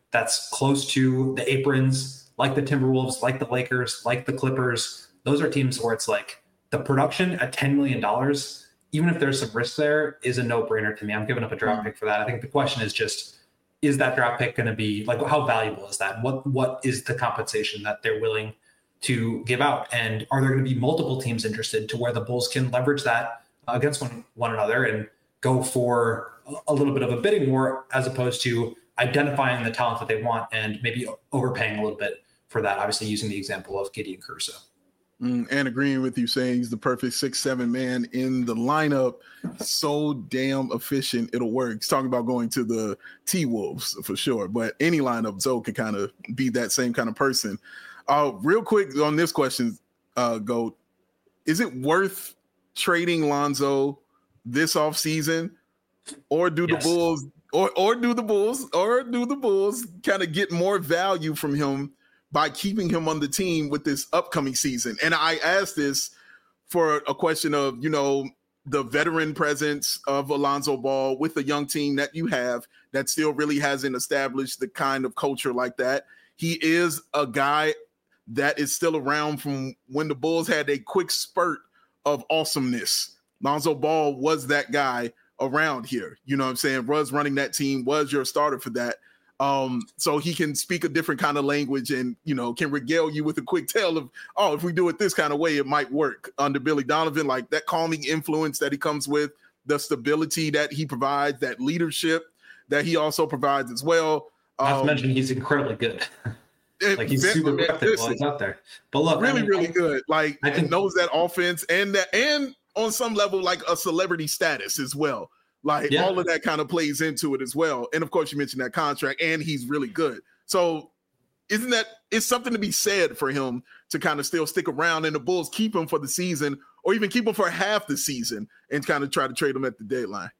that's close to the aprons, like the Timberwolves, like the Lakers, like the Clippers. Those are teams where it's like the production at $10 million, even if there's some risk there, is a no-brainer to me. I'm giving up a draft pick for that. I think the question is just, is that draft pick going to be like, how valuable is that? What is the compensation that they're willing to give out? And are there going to be multiple teams interested to where the Bulls can leverage that against one another and go for a little bit of a bidding war, as opposed to identifying the talent that they want and maybe overpaying a little bit for that? Obviously, using the example of Gideon Caruso. And agreeing with you, saying he's the perfect 6'7" man in the lineup. So damn efficient, it'll work. He's talking about going to the T-Wolves for sure, but any lineup, Zoe could kind of be that same kind of person. Real quick on this question, Goat, is it worth trading Lonzo this offseason, or do the Bulls or do the Bulls kind of get more value from him by keeping him on the team with this upcoming season? And I asked this for a question of, the veteran presence of Alonzo Ball with the young team that you have that still really hasn't established the kind of culture like that. He is a guy that is still around from when the Bulls had a quick spurt of awesomeness. Lonzo Ball was that guy around here. You know what I'm saying? Was running that team, was your starter for that. So he can speak a different kind of language and, can regale you with a quick tale of, if we do it this kind of way, it might work under Billy Donovan, like that calming influence that he comes with, the stability that he provides, that leadership that he also provides as well. Not to mention he's incredibly good. Like he's super effective while he's out there. But look, really good. Like I think knows that offense and on some level, like a celebrity status as well. Like all of that kind of plays into it as well. And of course you mentioned that contract, and he's really good. So it's something to be said for him to kind of still stick around, and the Bulls keep him for the season, or even keep him for half the season and kind of try to trade him at the deadline.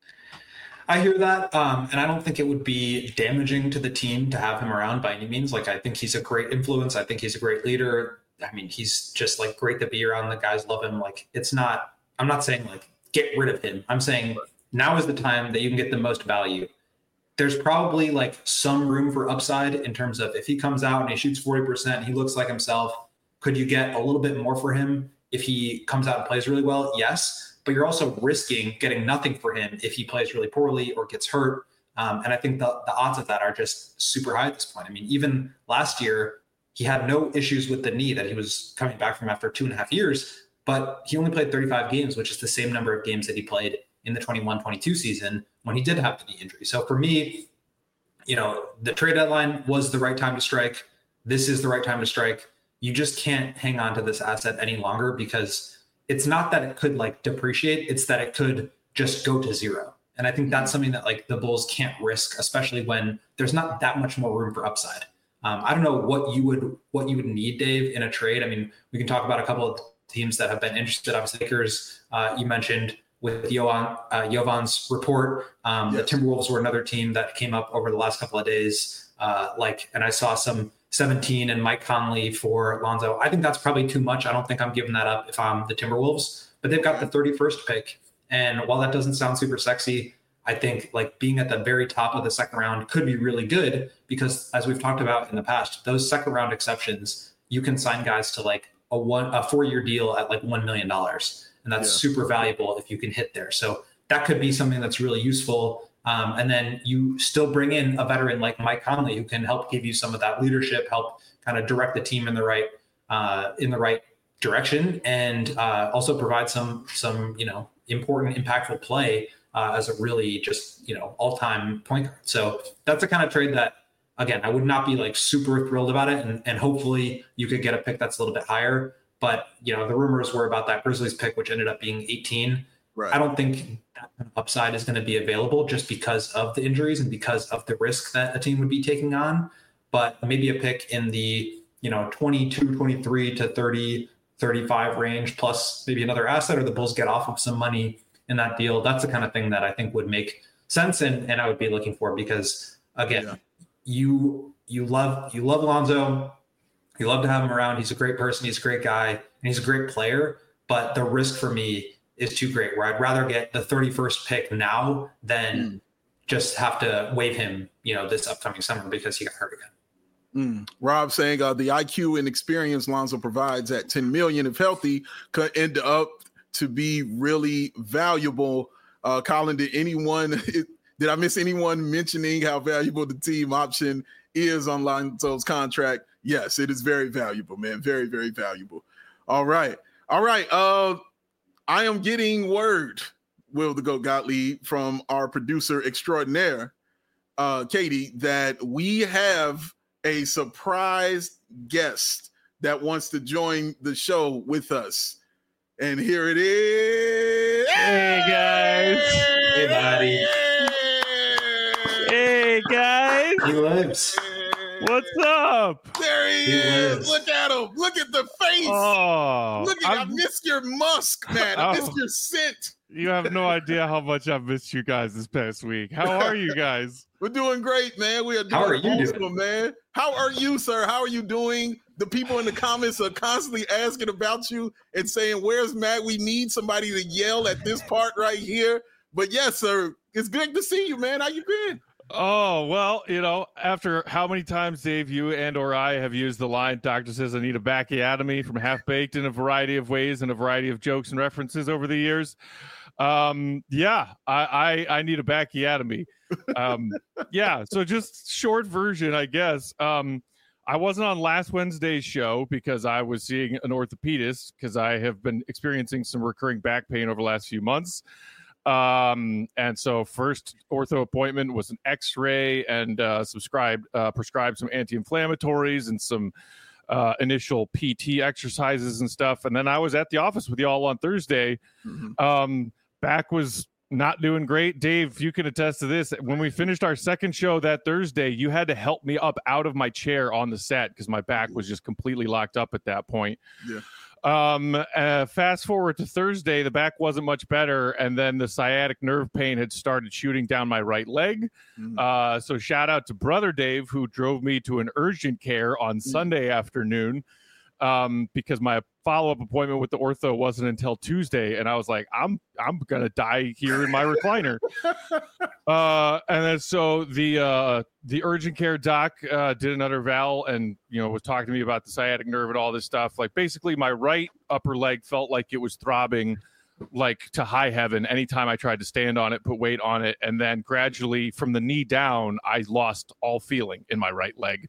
I hear that. And I don't think it would be damaging to the team to have him around by any means. Like, I think he's a great influence. I think he's a great leader. I mean, he's just like great to be around. The guys love him. Like, I'm not saying like get rid of him. I'm saying now is the time that you can get the most value. There's probably like some room for upside in terms of if he comes out and he shoots 40%, he looks like himself. Could you get a little bit more for him if he comes out and plays really well? Yes. But you're also risking getting nothing for him if he plays really poorly or gets hurt. And I think the odds of that are just super high at this point. I mean, even last year, he had no issues with the knee that he was coming back from after 2.5 years, but he only played 35 games, which is the same number of games that he played in the 21-22 season when he did have the knee injury. So for me, the trade deadline was the right time to strike. This is the right time to strike. You just can't hang on to this asset any longer, because it's not that it could like depreciate, it's that it could just go to zero. And I think that's something that like the Bulls can't risk, especially when there's not that much more room for upside. I don't know what you would need, Dave, in a trade. I mean, we can talk about a couple of teams that have been interested. Obviously, Lakers, you mentioned with Jovan's report. The Timberwolves were another team that came up over the last couple of days. And I saw some 17 and Mike Conley for Lonzo. I think that's probably too much. I don't think I'm giving that up if I'm the Timberwolves, but they've got the 31st pick. And while that doesn't sound super sexy, I think like being at the very top of the second round could be really good, because as we've talked about in the past, those second round exceptions, you can sign guys to like a 4-year deal at like $1 million. And that's super valuable if you can hit there. So that could be something that's really useful. And then you still bring in a veteran like Mike Conley, who can help give you some of that leadership, help kind of direct the team in the right direction, and also provide some important, impactful play as a really just all-time point guard. So that's the kind of trade that, again, I would not be like super thrilled about it, and hopefully you could get a pick that's a little bit higher. But the rumors were about that Grizzlies pick, which ended up being 18. Right. I don't think that upside is going to be available just because of the injuries and because of the risk that a team would be taking on. But maybe a pick in the 22, 23 to 30, 35 range, plus maybe another asset, or the Bulls get off of some money in that deal. That's the kind of thing that I think would make sense, and I would be looking for, because again, you love Lonzo. You love to have him around. He's a great person. He's a great guy, and he's a great player. But the risk for me is too great, where I'd rather get the 31st pick now than just have to waive him, this upcoming summer because he got hurt again. Rob saying the IQ and experience Lonzo provides at $10 million, if healthy, could end up to be really valuable. Colin, did I miss anyone mentioning how valuable the team option is on Lonzo's contract? Yes, it is very valuable, man. Very, very valuable. All right. I am getting word, Will the Goat Gottlieb, from our producer extraordinaire, Katie, that we have a surprise guest that wants to join the show with us. And here it is. Hey, guys. Hey, buddy. Hey, guys. He lives. What's up? There he is. Look at him. Look at the face. Oh, I missed your musk, man. I missed your scent. You have no idea how much I've missed you guys this past week. How are you guys? We're doing great, man. We are doing How are you awesome, doing? man. How are you, sir? How are you doing? The people in the comments are constantly asking about you and saying, where's Matt? We need somebody to yell at this part right here. But yes, sir, it's good to see you, man. How you been? Oh, well, after how many times, Dave, you and or I have used the line, doctor says I need a bacchiotomy from Half-Baked in a variety of ways and a variety of jokes and references over the years. I need a bacchiotomy. So just short version, I guess. I wasn't on last Wednesday's show because I was seeing an orthopedist because I have been experiencing some recurring back pain over the last few months. And so first ortho appointment was an x-ray and prescribed some anti-inflammatories and some initial PT exercises and stuff. And then I was at the office with y'all on Thursday. Back was not doing great. Dave, you can attest to this. When we finished our second show that Thursday, you had to help me up out of my chair on the set because my back was just completely locked up at that point. Yeah. Fast forward to Thursday, the back wasn't much better, and then the sciatic nerve pain had started shooting down my right leg. So shout out to Brother Dave, who drove me to an urgent care on Sunday afternoon, because my follow-up appointment with the ortho wasn't until Tuesday, and I was like, I'm gonna die here in my recliner. And then so the urgent care doc did another eval and was talking to me about the sciatic nerve and all this stuff. Like basically my right upper leg felt like it was throbbing like to high heaven anytime I tried to stand on it, put weight on it, and then gradually from the knee down I lost all feeling in my right leg.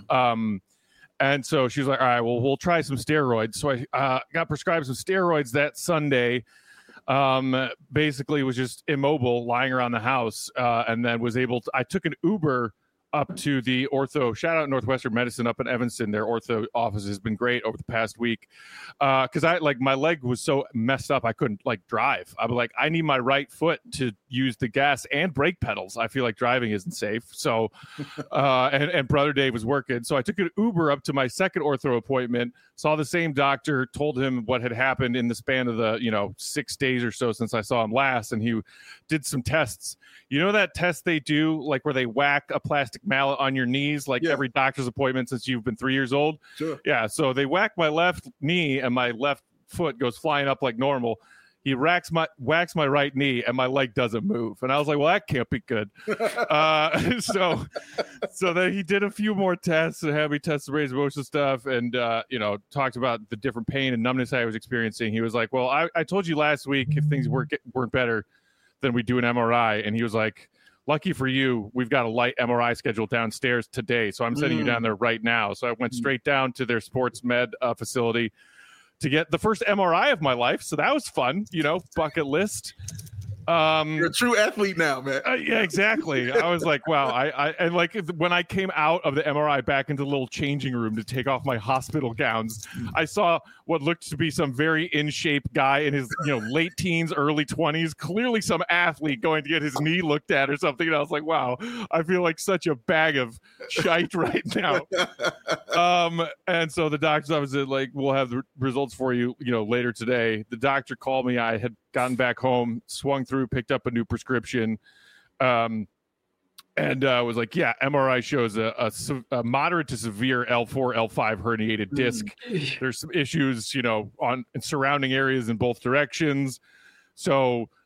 And so she was like, all right, well, we'll try some steroids. So I got prescribed some steroids that Sunday. Basically was just immobile, lying around the house, and then was able to, I took an Uber up to the ortho, shout out Northwestern Medicine up in Evanston. Their ortho office has been great over the past week. Cause my leg was so messed up. I couldn't drive. I was like, I need my right foot to use the gas and brake pedals. I feel like driving isn't safe. So, and Brother Dave was working. So I took an Uber up to my second ortho appointment, saw the same doctor, told him what had happened in the span of the, 6 days or so since I saw him last. And he did some tests. That test they do, where they whack a plastic mallet on your knees, every doctor's appointment since you've been 3 years old. Sure. Yeah. So they whack my left knee and my left foot goes flying up like normal. He whacks my right knee and my leg doesn't move. And I was like, well, that can't be good. So then he did a few more tests and had me test the range of motion stuff and, talked about the different pain and numbness I was experiencing. He was like, well, I told you last week if things weren't better, then we do an MRI. And he was like, lucky for you, we've got a light MRI scheduled downstairs today. So I'm sending you down there right now. So I went straight down to their sports med facility to get the first MRI of my life. So that was fun, bucket list. You're a true athlete now, man. Yeah, exactly. I was like, wow. And when I came out of the MRI back into the little changing room to take off my hospital gowns, I saw what looked to be some very in shape guy in his late teens, early 20s, clearly some athlete going to get his knee looked at or something. And I was like, wow, I feel like such a bag of shite right now. And so the doctor's office said, we'll have the results for you, later today. The doctor called me. I had gotten back home, swung through, picked up a new prescription, and was like, yeah, MRI shows a moderate to severe L4, L5 herniated disc. There's some issues, on surrounding areas in both directions. So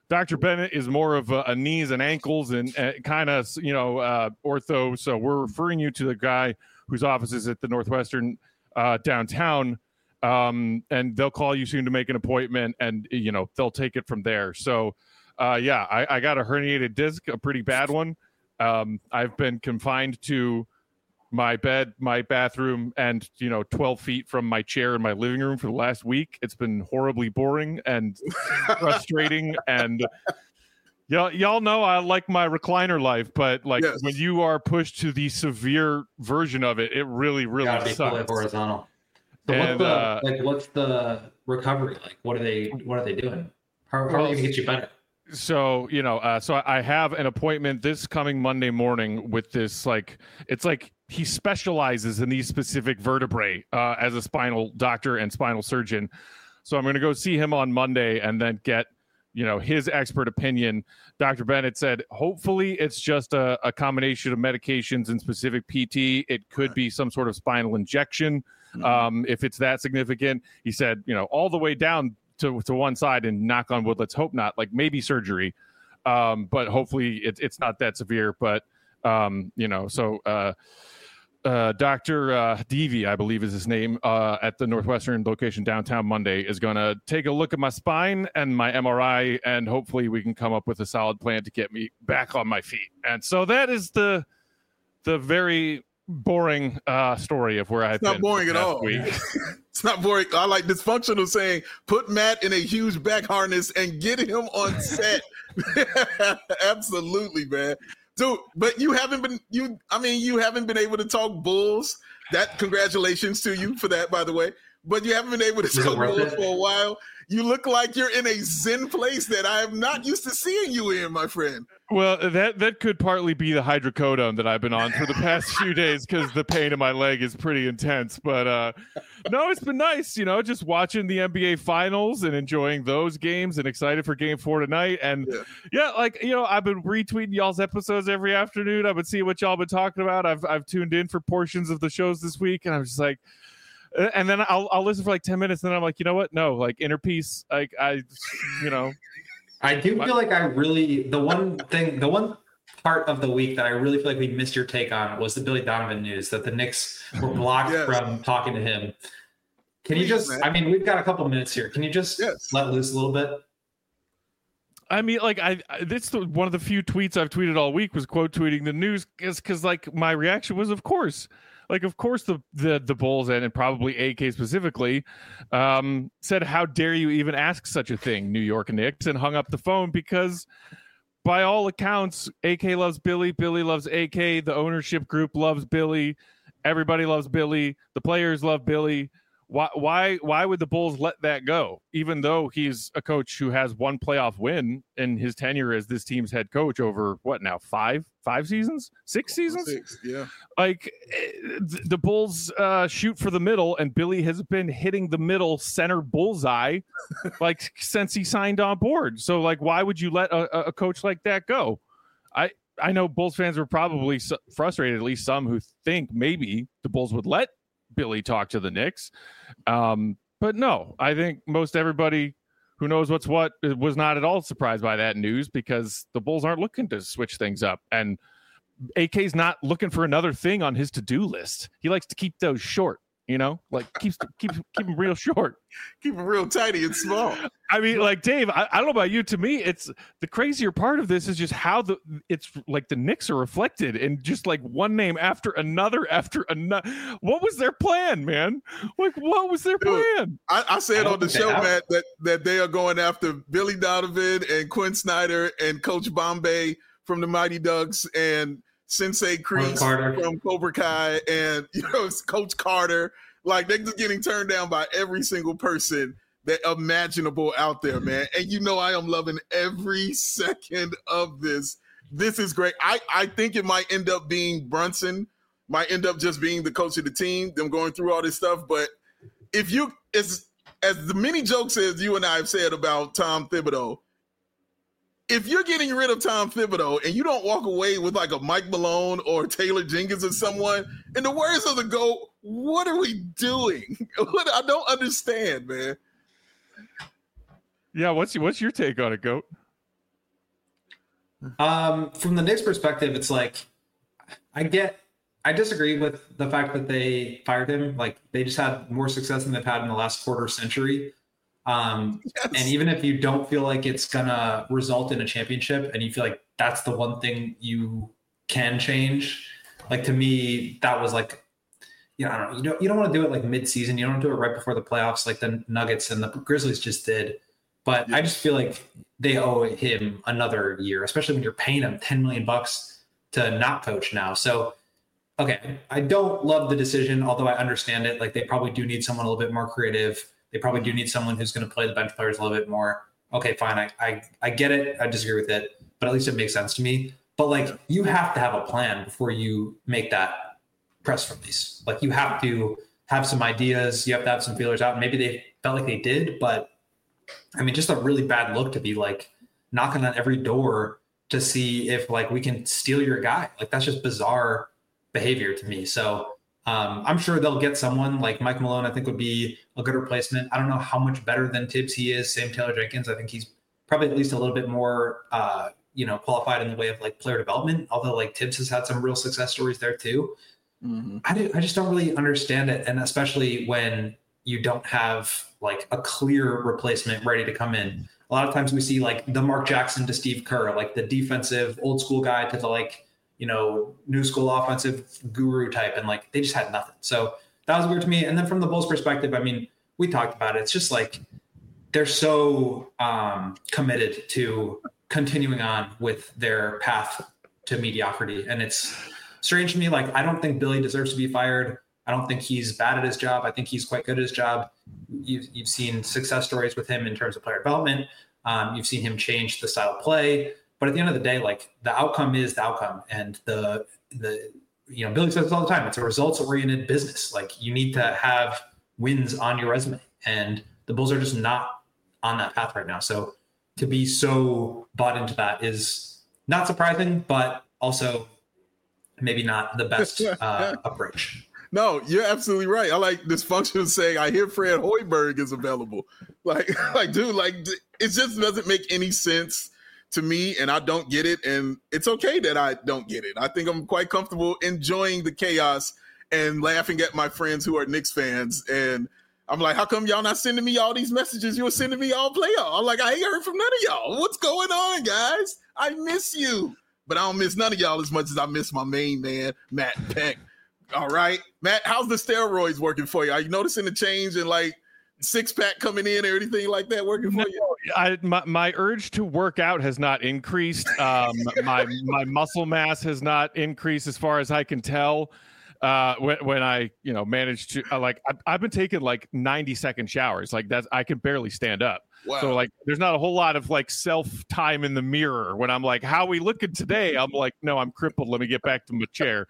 Dr. Bennett is more of a knees and ankles and kind of, ortho. So we're referring you to the guy whose office is at the Northwestern downtown. And they'll call you soon to make an appointment, and, they'll take it from there. So, I got a herniated disc, a pretty bad one. I've been confined to my bed, my bathroom, and 12 feet from my chair in my living room for the last week. It's been horribly boring and frustrating. And y'all know I like my recliner life, but when you are pushed to the severe version of it, it really, really sucks. Fully horizontal. So and, what's the recovery like? What are they doing? How are they going to get you better? So, so I have an appointment this coming Monday morning with this, it's like he specializes in these specific vertebrae as a spinal doctor and spinal surgeon. So I'm going to go see him on Monday and then get, his expert opinion. Dr. Bennett said, hopefully it's just a combination of medications and specific PT. It could be some sort of spinal injection. If it's that significant. He said, all the way down to one side, and knock on wood, let's hope not, maybe surgery. But hopefully it's not that severe. But, Dr. Devi, I believe is his name, at the Northwestern location downtown Monday, is going to take a look at my spine and my MRI, and hopefully we can come up with a solid plan to get me back on my feet. And so that is the very boring story of where I've been. It's not boring at all. It's not boring. I like dysfunctional saying, put Matt in a huge back harness and get him on set. Absolutely, man. Dude, but you haven't been able to talk Bulls. Congratulations to you for that, by the way. But you haven't been able to talk Bulls for a while. You look like you're in a zen place that I am not used to seeing you in, my friend. Well, that could partly be the hydrocodone that I've been on for the past few days, because the pain in my leg is pretty intense. But no, it's been nice, just watching the NBA Finals and enjoying those games, and excited for Game 4 tonight. And I've been retweeting y'all's episodes every afternoon. I've been seeing what y'all been talking about. I've tuned in for portions of the shows this week, and I'm just like. And then I'll listen for 10 minutes, and then I'm like, you know what? No, inner peace. I do feel like the one part of the week that I really feel like we missed your take on was the Billy Donovan news, that the Knicks were blocked from talking to him. Can you just, we've got a couple minutes here. Can you just let loose a little bit? I mean, this is one of the few tweets I've tweeted all week was quote tweeting the news, because my reaction was, of course. Of course, the Bulls and probably AK specifically said, "How dare you even ask such a thing, New York Knicks?" and hung up the phone, because by all accounts, AK loves Billy, Billy loves AK, the ownership group loves Billy, everybody loves Billy, the players love Billy. Why would the Bulls let that go? Even though he's a coach who has one playoff win in his tenure as this team's head coach over what now, five seasons, 6 seasons? 6, yeah. The Bulls shoot for the middle, and Billy has been hitting the middle center bullseye since he signed on board. So why would you let a coach like that go? I know Bulls fans were probably frustrated, at least some who think maybe the Bulls would let Billy talk to the Knicks. But no, I think most everybody who knows what's what was not at all surprised by that news, because the Bulls aren't looking to switch things up. And AK's not looking for another thing on his to-do list. He likes to keep those short, keep them real short. Keep them real tiny and small. I mean, Dave, I don't know about you. To me, it's the crazier part of this is just how the Knicks are reflected in just one name after another. What was their plan, man? What was their plan? I said on the show, Matt, that they are going after Billy Donovan and Quinn Snyder and Coach Bombay from the Mighty Ducks and Sensei Kreese from Cobra Kai and Coach Carter. They're just getting turned down by every single person that imaginable out there, man. And I am loving every second of this. This is great. I think it might end up being Brunson, might end up just being the coach of the team, them going through all this stuff. But if you, as the many jokes as you and I have said about Tom Thibodeau, if you're getting rid of Tom Thibodeau and you don't walk away with a Mike Malone or Taylor Jenkins or someone, in the words of the GOAT, what are we doing? I don't understand, man. Yeah, what's your take on it, GOAT? From the Knicks perspective, it's like, I disagree with the fact that they fired him. Like, they just had more success than they've had in the last quarter century. And even if you don't feel like it's gonna result in a championship, and you feel like that's the one thing you can change, like, to me, that was like, I don't know. You don't want to do it like mid-season. You don't do it right before the playoffs, like the Nuggets and the Grizzlies just did. But I just feel like they owe him another year, especially when you're paying him $10 million to not coach now. So, okay, I don't love the decision, although I understand it. Like, they probably do need someone a little bit more creative. They probably do need someone who's going to play the bench players a little bit more. Okay, fine. I get it. I disagree with it, but at least it makes sense to me. But, like, you have to have a plan before you make that press release. Like, you have to have some ideas. You have to have some feelers out. Maybe they felt like they did, but I mean, just a really bad look to be like knocking on every door to see if like we can steal your guy. Like, that's just bizarre behavior to me. So I'm sure they'll get someone like Mike Malone. I think would be a good replacement. I don't know how much better than Tibbs he is. Same Taylor Jenkins. I think he's probably at least a little bit more, qualified in the way of like player development. Although like Tibbs has had some real success stories there too. Mm-hmm. I just don't really understand it. And especially when you don't have like a clear replacement ready to come in. A lot of times we see like the Mark Jackson to Steve Kerr, like the defensive old school guy to the like, new school offensive guru type. And like, they just had nothing. So that was weird to me. And then from the Bulls perspective, I mean, we talked about it. It's just like, they're so committed to continuing on with their path to mediocrity. And it's strange to me. Like, I don't think Billy deserves to be fired. I don't think he's bad at his job. I think he's quite good at his job. You've seen success stories with him in terms of player development. You've seen him change the style of play. But at the end of the day, like, the outcome is the outcome. And the Billy says this all the time. It's a results-oriented business. Like, you need to have wins on your resume. And the Bulls are just not on that path right now. So to be so bought into that is not surprising, but also maybe not the best approach. No, you're absolutely right. I like this function of saying, I hear Fred Hoiberg is available. Dude, it just doesn't make any sense to me, and I don't get it. And it's okay that I don't get it. I think I'm quite comfortable enjoying the chaos and laughing at my friends who are Knicks fans. And I'm like, how come y'all not sending me all these messages you were sending me all playoff? I'm like, I ain't heard from none of y'all. What's going on, guys? I miss you. But I don't miss none of y'all as much as I miss my main man, Matt Peck. All right, Matt, how's the steroids working for you? Are you noticing the change in like six-pack coming in or anything like that working for you? My urge to work out has not increased. My muscle mass has not increased as far as I can tell. When I manage to I've been taking like 90-second showers. Like, that's, I can barely stand up. Wow. So like, there's not a whole lot of like self time in the mirror when I'm like, how we looking today? I'm like, no, I'm crippled. Let me get back to my chair.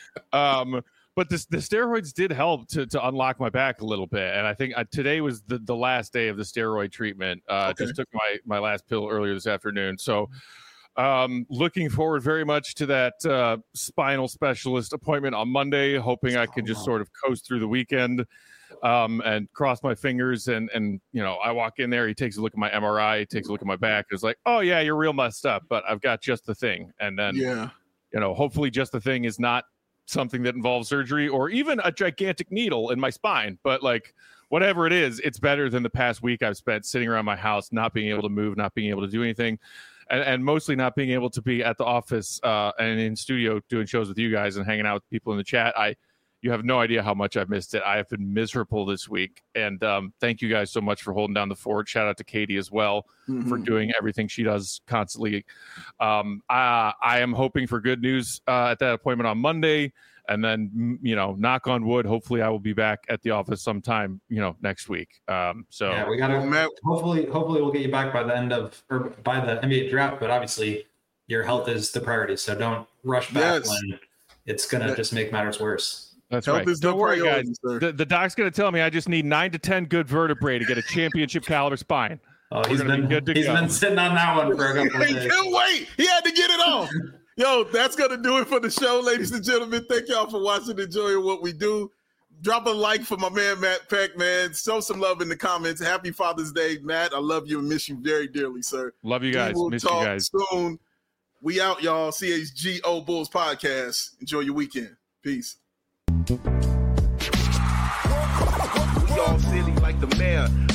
But the steroids did help to unlock my back a little bit. And I think today was the last day of the steroid treatment. Okay. Just took my last pill earlier this afternoon. So looking forward very much to that spinal specialist appointment on Monday, hoping I can just sort of coast through the weekend and cross my fingers. And I walk in there, he takes a look at my MRI, he takes a look at my back. It's like, oh yeah, you're real messed up, but I've got just the thing. And then, hopefully just the thing is not something that involves surgery or even a gigantic needle in my spine. But like, whatever it is, it's better than the past week I've spent sitting around my house, not being able to move, not being able to do anything. And mostly not being able to be at the office and in studio doing shows with you guys and hanging out with people in the chat. You have no idea how much I've missed it. I have been miserable this week. And thank you guys so much for holding down the fort. Shout out to Katie as well for doing everything she does constantly. I am hoping for good news at that appointment on Monday. And then, knock on wood, hopefully I will be back at the office sometime, next week. We got to hopefully we'll get you back by the NBA draft. But obviously, your health is the priority. So don't rush back when it's going to just make matters worse. That's right. Don't worry, guys. The doc's going to tell me I just need 9 to 10 good vertebrae to get a championship caliber spine. Oh, he's been sitting on that one for a couple of days. He can't wait. He had to get it off. Yo, that's going to do it for the show, ladies and gentlemen. Thank y'all for watching and enjoying what we do. Drop a like for my man, Matt Peck, man. Show some love in the comments. Happy Father's Day, Matt. I love you and miss you very dearly, sir. Love you guys. Miss you guys. Soon. We out, y'all. CHGO Bulls Podcast. Enjoy your weekend. Peace. We all silly like the mayor.